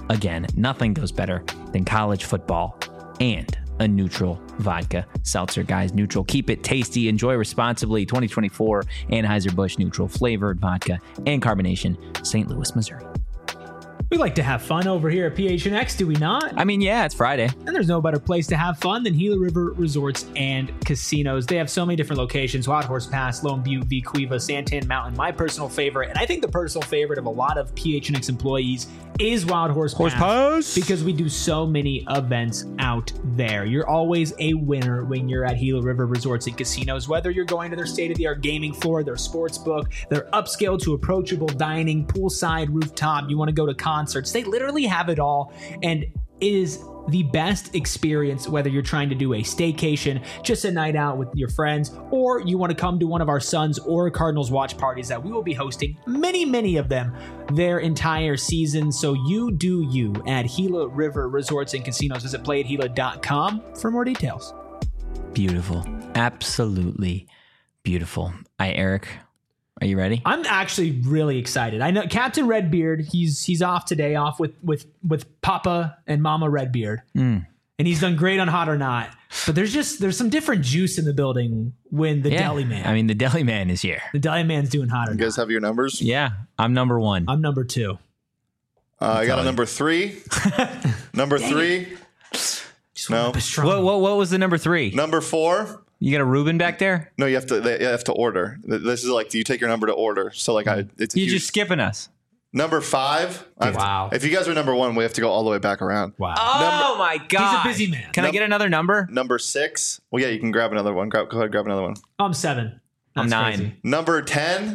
Again, nothing goes better than college football and a neutral vodka seltzer. Guys, neutral. Keep it tasty. Enjoy responsibly. twenty twenty-four Anheuser-Busch Neutral flavored vodka and carbonation, Saint Louis, Missouri. We like to have fun over here at P H N X, do we not? I mean, yeah, it's Friday. And there's no better place to have fun than Gila River Resorts and Casinos. They have so many different locations: Wild Horse Pass, Lone Butte, Vequiva, Santan Mountain. My personal favorite, and I think the personal favorite of a lot of P H N X employees, is Wild Horse, Horse Pass, Pass. because we do so many events out there. You're always a winner when you're at Gila River Resorts and Casinos, whether you're going to their state-of-the-art gaming floor, their sports book, their upscale to approachable dining, poolside, rooftop. You want to go to concerts. They literally have it all, and it is the best experience whether you're trying to do a staycation, just a night out with your friends, or you want to come to one of our Suns or Cardinals watch parties that we will be hosting, many, many of them, their entire season. So you do you at Gila River Resorts and Casinos. Visit play at gila dot com for more details. Beautiful. Absolutely beautiful. Hi, Eric. Are you ready? I'm actually really excited. I know Captain Redbeard, he's he's off today, off with with with Papa and Mama Redbeard. Mm. And he's done great on Hot or Not. But there's just there's some different juice in the building when the Yeah. Deli Man. I mean, the Deli Man is here. the Deli Man's doing Hot or You Not. guys have your numbers? Yeah, I'm number one. I'm number two. Uh, I got telling a number three. number three. Just No. want to be strong. What, what, what was the number three? Number four. You got a Reuben back there? No, you have to. They, you have to order. This is like you take your number to order. So like I, it's a You're huge- just skipping us. number five. I have to- Wow. if you guys are number one, we have to go all the way back around. Wow. Oh my God. He's a busy man. Can I Num- get another number? Number six. Well, yeah, you can grab another one. Grab, go ahead, grab another one. I'm seven. I'm That's nine. crazy. Number ten.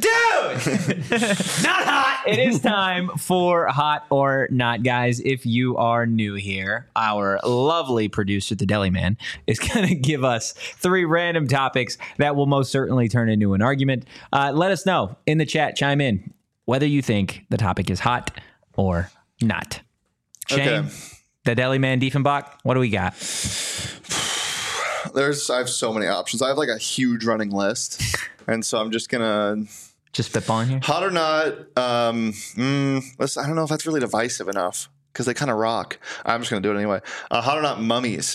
Not hot. It is time for Hot or Not, guys. If you are new here, our lovely producer, the Deli Man, is going to give us three random topics that will most certainly turn into an argument. Uh, let us know in the chat, chime in, whether you think the topic is hot or not. Shane, Okay. the Deli Man Diefenbach, what do we got? There's. I have so many options. I have like a huge running list, and so I'm just gonna Just spitballing here. hot or not. Um, mm, let's, I don't know if that's really divisive enough because they kind of rock. I'm just gonna do it anyway. Uh, hot or not mummies.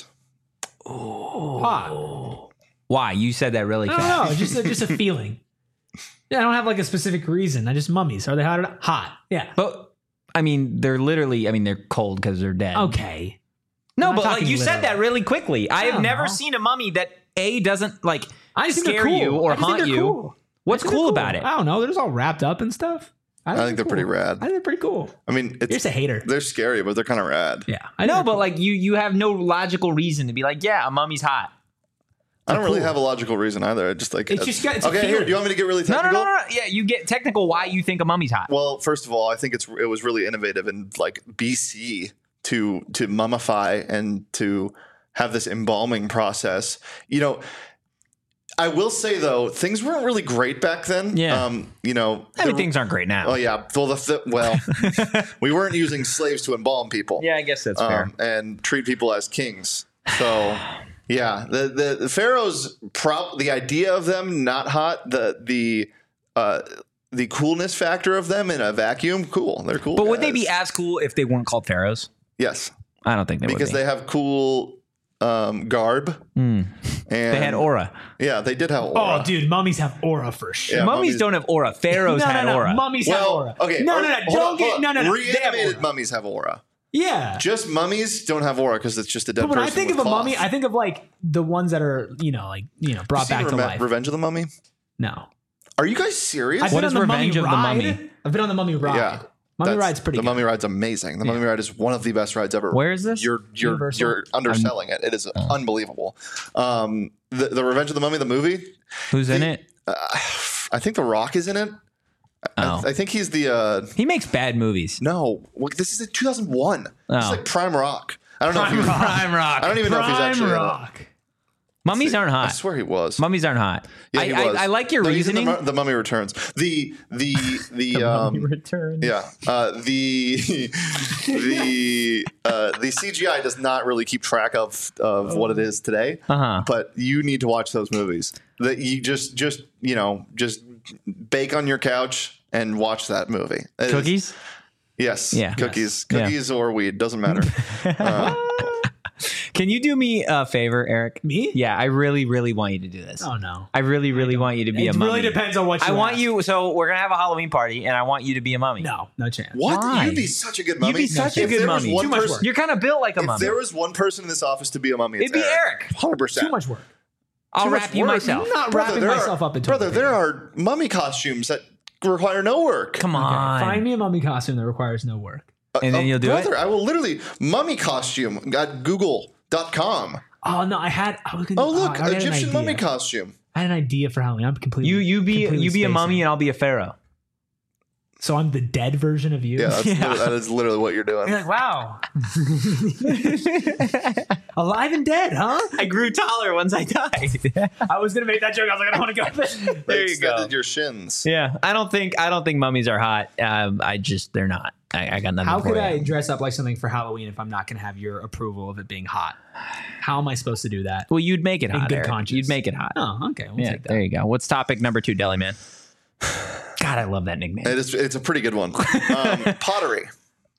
Hot. Why? You said that really I fast. don't know. Just a, just a feeling. Yeah, I don't have like a specific reason. I just mummies. Are they hot or not? Hot. Yeah. But, I mean, they're literally, I mean, they're cold because they're dead. Okay. No, I'm not but like talking you said literal. that really quickly. I have don't never know. seen a mummy that A doesn't like I just think they're scare cool. you or I just think haunt they're you. cool. What's I think cool they're about it? I don't know. They're just all wrapped up and stuff. I think they're pretty rad. I think they're pretty cool. I mean, You're it's just a hater. they're scary, but they're kind of rad. Yeah. I I know, think but they're like you, you have no logical reason to be like, yeah, a mummy's hot. I don't really cool. have a logical reason either. I just like It's just got- it's a okay. Here, feeling. do you want me to get really No, no, technical? no, no, no. Yeah, you get technical. Why you think a mummy's hot? Well, first of all, I think it's it was really innovative in like B C to to mummify and to have this embalming process. You know, I will say though, things weren't really great back then. Yeah. Um, you know, I mean, there- things aren't great now. Oh yeah. Well, the th- well, we weren't using slaves to embalm people. Yeah, I guess that's fair. Um, and treat people as kings. So, yeah, the the, the pharaohs. Prop the idea of them not hot. The the uh, the coolness factor of them in a vacuum. Cool. They're cool. But would they guys. be as cool if they weren't called pharaohs? Yes, I don't think they because would be. they have cool um, garb. Mm. And They had aura. Yeah, they did have aura. Oh, dude, mummies have aura for sure. Yeah, mummies, mummies- don't have aura. Pharaohs no, had no, no. aura. Mummies have Well, aura. okay. No, or- no, no. hold Don't on, get hold no, on. no, no. They have Reanimated aura. mummies have aura. Yeah. Just mummies don't have aura because it's just a dead But when I person think of with a cloth. mummy, I think of like the ones that are, you know, like, you know, brought Seen back to Reve- life. Revenge of the Mummy. No. Are you guys serious? I've What been is on the Revenge mummy of the ride. Mummy? I've been on the mummy ride. Yeah. Mummy That's- ride's pretty The good. Mummy ride's amazing. The Mummy ride is one of the best rides ever. Where is this? You're you're Universal? you're underselling it. It is unbelievable. Um, the the Revenge of the Mummy, the movie. Who's in it? Uh, I think The Rock is in it. Oh. I, I think he's the. Uh, He makes bad movies. no, well, this is in two thousand one. This Oh. is like Prime Rock. I don't know if he was. Prime Rock. I don't even know if he's Prime actually in it. Rock. Mummies aren't I hot. swear he was. Mummies aren't hot. Yeah, I, he I, was. I like your No, he's in reasoning. The, Mu- the Mummy Returns. The the the, um, Return. yeah uh, the the uh, the C G I does not really keep track of of what it is today. Uh-huh. But you need to watch those movies. That you just just you know just bake on your couch and watch that movie. It is- Cookies? Yes. Yeah. Cookies. Yes. Cookies or weed. Doesn't matter. Uh, Can you do me a favor, Eric? Me? Yeah, I really, really want you to do this. Oh no. I really, really want you to be It a mummy. really depends on what you I want ask. you. So we're gonna have a Halloween party, and I want you to be a mummy. No, no chance. what? Why? You'd be such a good mummy. You'd be such a If good there was mummy. one Too much person- work. You're kind of built like a If mummy. there was one person in this office to be a mummy, it's It'd be Eric. one hundred percent. Too much work. I'll too much wrap you work. myself. I'm not Brother, wrapping there myself are, up in brother, toilet there paper. are mummy costumes that require no work. Come Okay, on. find me a mummy costume that requires no work. And then Uh, you'll do brother, it? I will literally mummy costume at google dot com. Oh no, I had. I was gonna. Oh look, I had an Egyptian mummy idea. costume. I had an idea for Halloween. I'm completely. You you be completely you be a spacing. mummy, and I'll be a pharaoh. So I'm the dead version of you. Yeah, that's Yeah. literally- that is literally what you're doing. You're like, wow. Alive and dead, huh? I grew taller once I died. I was gonna make that joke. I was like, I don't want to go there. They There you go. extended your shins. Yeah, I don't think I don't think mummies are hot. Um, I just they're not. I, I got nothing. How for could you. I dress up like something for Halloween if I'm not gonna have your approval of it being hot? How am I supposed to do that? Well, you'd make it In hot. good Eric. conscience. You'd make it hot. Oh, okay. We'll yeah, take that. there you go. What's topic number two, Deli Man? God, I love that nickname. It is, it's a pretty good one. Um, pottery.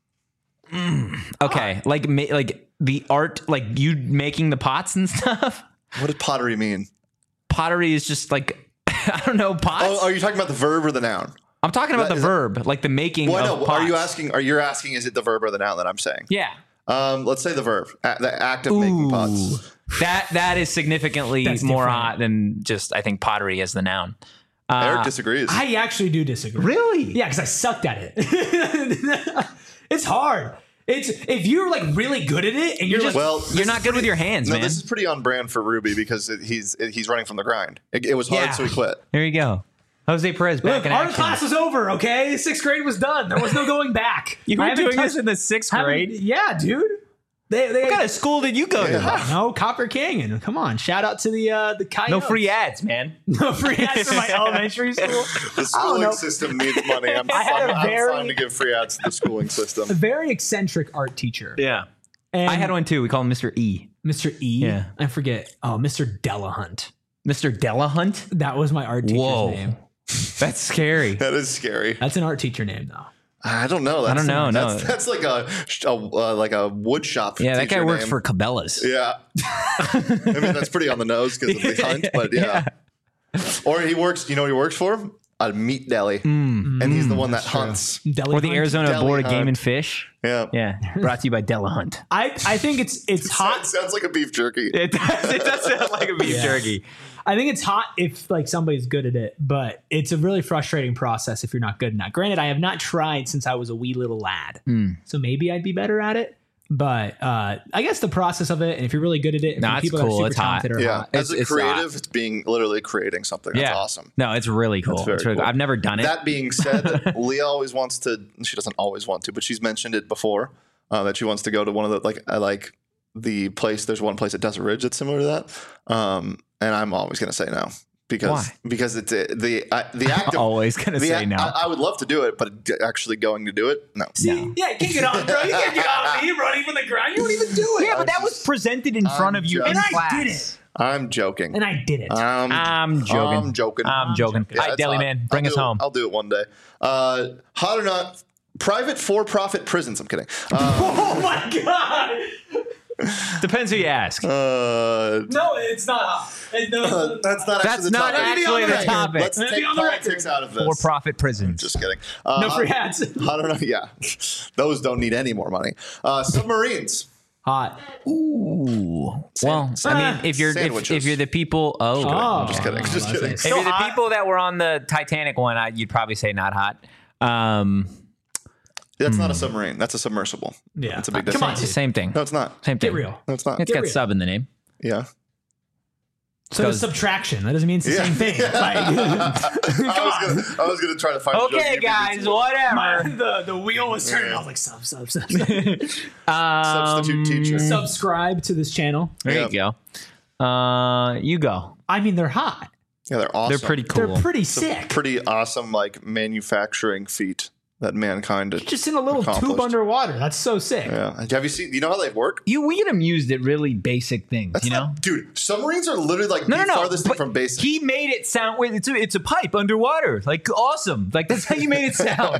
Okay, like ma- like the art, like you making the pots and stuff. What does pottery mean? Pottery is just like I don't know pots. Oh, are you talking about the verb or the noun? I'm talking about that- the is that- verb, like the making Well, of no. pots. Are you asking? Are you asking? Is it the verb or the noun that I'm saying? Yeah. Um, let's say the verb, a- the act of making pots. That that is significantly That's more different. hot than just I think pottery as the noun. Uh, Eric disagrees. I actually do disagree. Really? Yeah, because I sucked at it. It's hard. It's if you're like really good at it and you're, You're like, just well, you're this not is good with pretty- your hands, no, man. this is pretty on brand for Ruby because it, he's it, he's running from the grind. It, it was hard, Yeah. so he quit. There you go. Jose Perez back look, in our action. class was over. Okay, sixth grade was done. There was no going back. You I were haven't doing touched- this in the sixth haven't- grade. Yeah, dude. They, they What kind of school did you go to? no Copper Canyon. Come on, shout out to the uh, the Coyotes. No free ads, man. no free ads for my elementary school. The know. schooling system needs money. I'm, I had I'm, a I'm very- fine to give free ads to the schooling system. A very eccentric art teacher. Yeah. And I had one too. We call him Mister E. Mister E. Yeah. I forget. Oh, Mister Delahunt. Mister Delahunt? That was my art teacher's Whoa. name. That's scary. That is scary. That's an art teacher name, though. I don't know. That's, don't know, no. That's, that's like a, a uh, like a wood shop. Yeah, that guy teacher works name. for Cabela's. Yeah. I mean, that's pretty on the nose because of the hunt, but yeah. Or he works. You know, what he works for a meat deli, and he's the one that hunts. Deli Or the Hunt. Arizona Deli Board of Game Hunt. and Fish. Yeah. Yeah. Brought to you by Delahunt. I, I think it's it's Hot hot. sounds like a beef jerky. It does, it does sound like a beef Yeah. jerky. I think it's hot if like somebody's good at it, but it's a really frustrating process if you're not good enough. Granted, I have not tried since I was a wee little lad, Hmm. so maybe I'd be better at it. But uh, I guess the process of it, and if you're really good at it, if No, the it's people cool. that are It's super hot. talented are Yeah. hot. As a It's- it's creative, it's being literally creating something. That's Yeah. awesome. No, it's really cool. very It's really cool. cool. I've never done it. That being said, Leah always wants to. She doesn't always want to, but she's mentioned it before uh, that she wants to go to one of the like I like the place. There's one place at Desert Ridge that's similar to that, um, and I'm always going to say no because Why? because it's uh, the uh, the act of Always gonna the say act- no. I, I would love to do it, but d- actually going to do it, no. See, yeah, you can't get on, bro. You can't get on me running from the ground. You don't even do it. yeah, but that was presented in front of you just- in and I class. did it, I'm joking. and I did it. Um, I'm joking. I'm joking. I'm joking. Yeah, All right, it's Deli hot. Man, bring I'll us do it- home. I'll do it one day. Uh, hot or not, private for-profit prisons. I'm kidding. Uh, Oh my god! Depends who you ask. uh, No, it's not hot. It- no, Uh, that's not That's actually the not topic. actually the topic. Let's Let it take be on the politics record. out of this. For-profit prisons. Just kidding. Uh, no free ads. I don't know. Yeah, those don't need any more money. Uh, submarines. Hot. Ooh. Well, I mean, if you're if, Sandwiches. if you're the people, oh, Oh, Just kidding. Just kidding. if you're the people that were on the Titanic one, I, you'd probably say not hot. Um, That's not a submarine. That's a submersible. Yeah. That's a big Come difference. on, it's the same thing. No, it's not. Same thing. Get real. No, it's not. It's Get got real. sub in the name. Yeah. So there's Goes- subtraction. That doesn't mean it's the Yeah. same thing. Like, I was gonna. I was gonna try to find. a joke Okay, you beat me guys, to. whatever. my, the, the wheel was turning. I was like, sub, sub, sub. Um, Substitute teacher. Subscribe to this channel. There you go. Uh, you go. I mean, they're hot. Yeah, they're awesome. They're pretty cool. They're pretty sick. Pretty awesome, like manufacturing feat. that mankind Just in a little tube accomplished. underwater. That's so sick. Yeah. Have you seen? You know how they work? You we get amused at really basic things, That's you know. not- dude. Submarines are literally like No, the no, no. farthest thing but from basic. He made it sound. Wait, it's a, it's a pipe underwater. Like awesome. Like that's how you made it sound.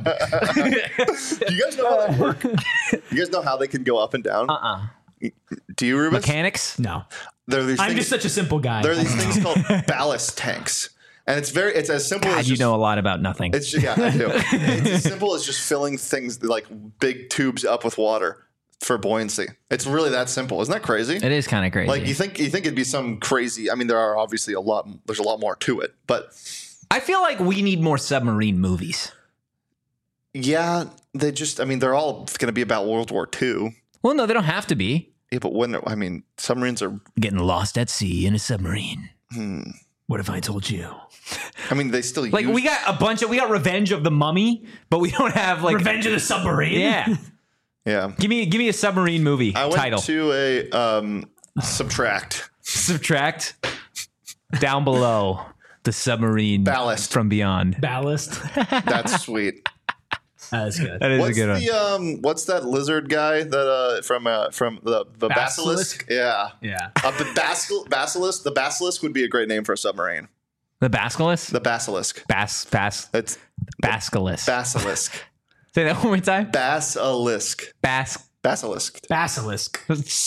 Do you guys know how they work? You guys know how they can go up and down? uh uh Do you, Rubens? Mechanics. No. There are these I'm things, just such a simple guy. there are these things called ballast tanks, and it's very it's as simple God, as you just, know a lot about nothing. It's just, yeah, I do. It's as simple as just filling things like big tubes up with water for buoyancy. It's really that simple. Isn't that crazy? It is kind of crazy. Like you think you think it'd be some crazy. I mean, there are obviously a lot. There's a lot more to it, but I feel like we need more submarine movies. yeah, they just. I mean, they're all going to be about World War Two. Well, no, they don't have to be. Yeah, but when I mean, submarines are. Getting lost at sea in a submarine. Hmm, What if I told you? I mean, they still Like use, we got a bunch of we got Revenge of the Mummy, but we don't have like Revenge of the Submarine? Yeah, Yeah, give me give me a submarine movie I went title. to a um, subtract. Subtract down below the submarine Ballast. from beyond. Ballast. That's sweet. That's good. That is What's a good one. the um? What's that lizard guy that uh from uh from the the basilisk? Basilisk? Yeah, Yeah. uh, the basil- basilisk. The basilisk would be a great name for a submarine. The basilisk. The basilisk. Bas bas It's basilisk. basilisk. Say that one more time. Basilisk. Bas. Basilisk. Basilisk.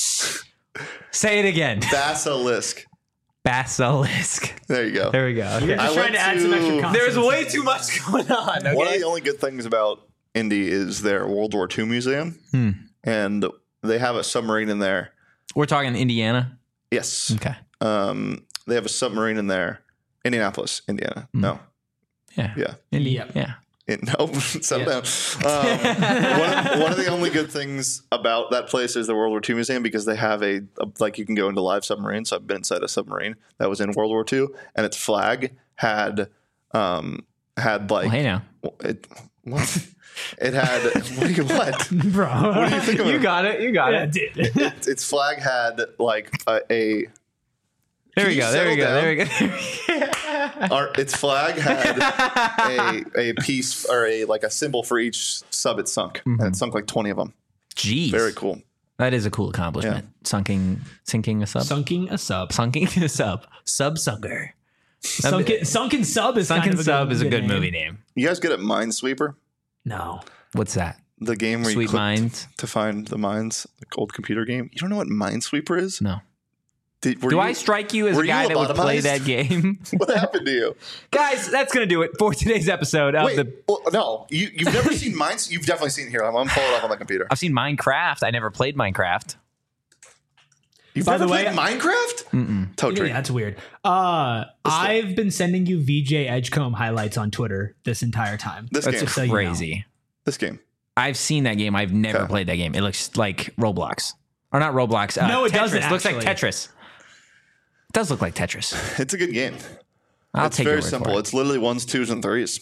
Say it again. Basilisk. Basilisk. There you go. There we go. Okay. You're just I trying went to add some to- extra consonants. There's way too much going on. Okay? One of the only good things about Indy is their World War Two museum, Hmm. and they have a submarine in there. We're talking Indiana. Yes. Okay. Um, they have a submarine in there. Indianapolis, Indiana. Hmm. No. Yeah. Yeah. Indy. Yep. Yeah. It, no, settle down. Um, one, of, one of the only good things about that place is the World War Two museum because they have a, a like you can go into live submarines. So I've been inside a submarine that was in World War Two, and its flag had um had like Well, hey now. it what it had what do you what Bro. what do you think of You it? got it. You got Yeah, it. dude. It- its flag had like a, a There Can we you go. There we settle go. down? There we go. Our, its flag had a a piece or a like a symbol for each sub it sunk, and it sunk like twenty of them. Jeez. Very cool. That is a cool accomplishment. Sunking, sinking a sub. Sunking a sub. Sunking a sub. Sub sunker. Sunken, sunken sub is Sunken kind of a sub good, is a good name. movie name. You guys good at Minesweeper? No. What's that? The game where you Sweet click Minds. to find the mines, the old computer game. You don't know what Minesweeper is? No. Did, were Do you- I strike you as were a you guy that would play lobotomized? that game? What happened to you? Guys, that's going to do it for today's episode of Wait, the. well, no, you you've never seen Mines. You've definitely seen it here. I'm, I'm pulling it up on my computer. I've seen Minecraft. I never played Minecraft. You've By never the way- played Minecraft? Mm-mm. Toe Yeah, tree. that's weird. Uh, I've been sending you V J Edgecombe highlights on Twitter this entire time. This That's game. so you know. crazy. This game. I've seen that game. I've never Okay. played that game. It looks like Roblox. Or not Roblox. Uh, No, it Tetris. doesn't, It looks like actually. Tetris. It does look like Tetris. It's a good game. I'll it's take your very word simple. For it. It's literally ones, twos, and threes.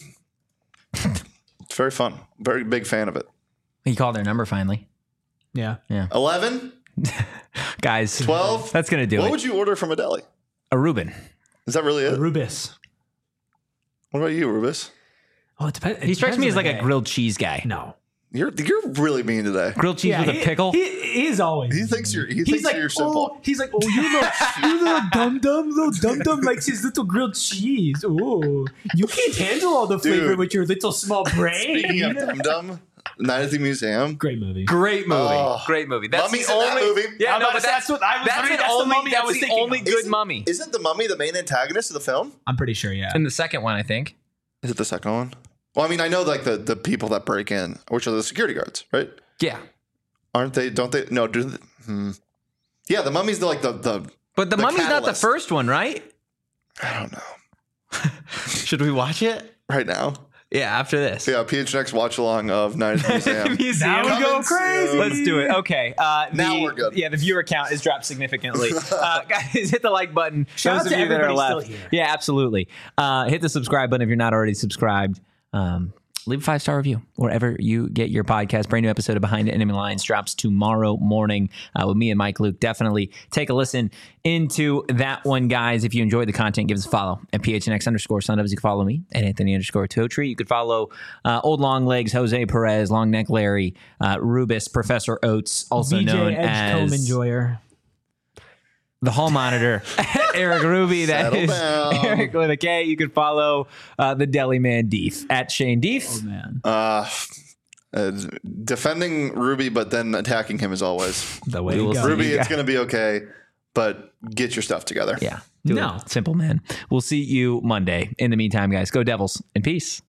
It's very fun. Very big fan of it. He called their number finally. Yeah. eleven, Guys, twelve. that's going to do What it. would you order from a deli? A Reuben. Is that really it? Rubis. What about you, Rubis? Oh, it depends. He strikes me as like a grilled cheese guy. No. You're you're really mean today. Grilled cheese with a he, pickle. He, he's always. He thinks you're he He's thinks like, you're simple. oh, he's like, oh, you little, you little dum dum, little dum dum likes his little grilled cheese. Oh, you can't handle all the flavor Dude. with your little small brain. Speaking of Dum Dum, Night at the Museum. Great movie. Great movie. Oh. Great movie. That's Mummy's the in that only movie. Yeah, I'm no, about but to say, that's that's what I was That's reading. an That's the only. mummy I That's was the thinking only of. good Isn't- mummy. Isn't the mummy the main antagonist of the film? I'm pretty sure, yeah. In the second one, I think. Is it the second one? Well, I mean, I know like the, the people that break in, which are the security guards, right? Yeah, Aren't they? Don't they? No, do they, hmm. Yeah, the mummy's the, like the the. but the, The mummy's not the catalyst. first one, right? I don't know. Should we watch it? Right now, Yeah, after this. yeah. P H N X watch along of Night at the Museum. Museum. Now we Coming go crazy. soon. Let's do it. Okay. Uh, Now the- we're good. Yeah, the viewer count has dropped significantly. Uh, guys, hit the like button. Shout Those out of to you that are everybody left. still here. Yeah, absolutely. Uh, hit the subscribe button if you're not already subscribed. Um, leave a five-star review wherever you get your podcast. Brand new episode of Behind the Enemy Lines drops tomorrow morning uh, with me and Mike Luke. Definitely take a listen into that one, guys. If you enjoyed the content, give us a follow at P H N X underscore Sundoves. You can follow me at Anthony underscore Totri. You could follow uh, Old Long Legs, Jose Perez, Long Neck Larry, uh, Rubis, Professor Oates, also V J known Edgecombe as Enjoyer. the Hall Monitor, Eric Ruby. That Settle is down. Eric with a K. You can follow uh, the Deli Man Deef at Shane Deef. Oh man, Uh, uh, defending Ruby, but then attacking him as always. the way We to will go. see. Ruby, you it's guys- going to be okay, but get your stuff together. Yeah. Do No. it. Simple, man. We'll see you Monday. In the meantime, guys, go Devils and peace.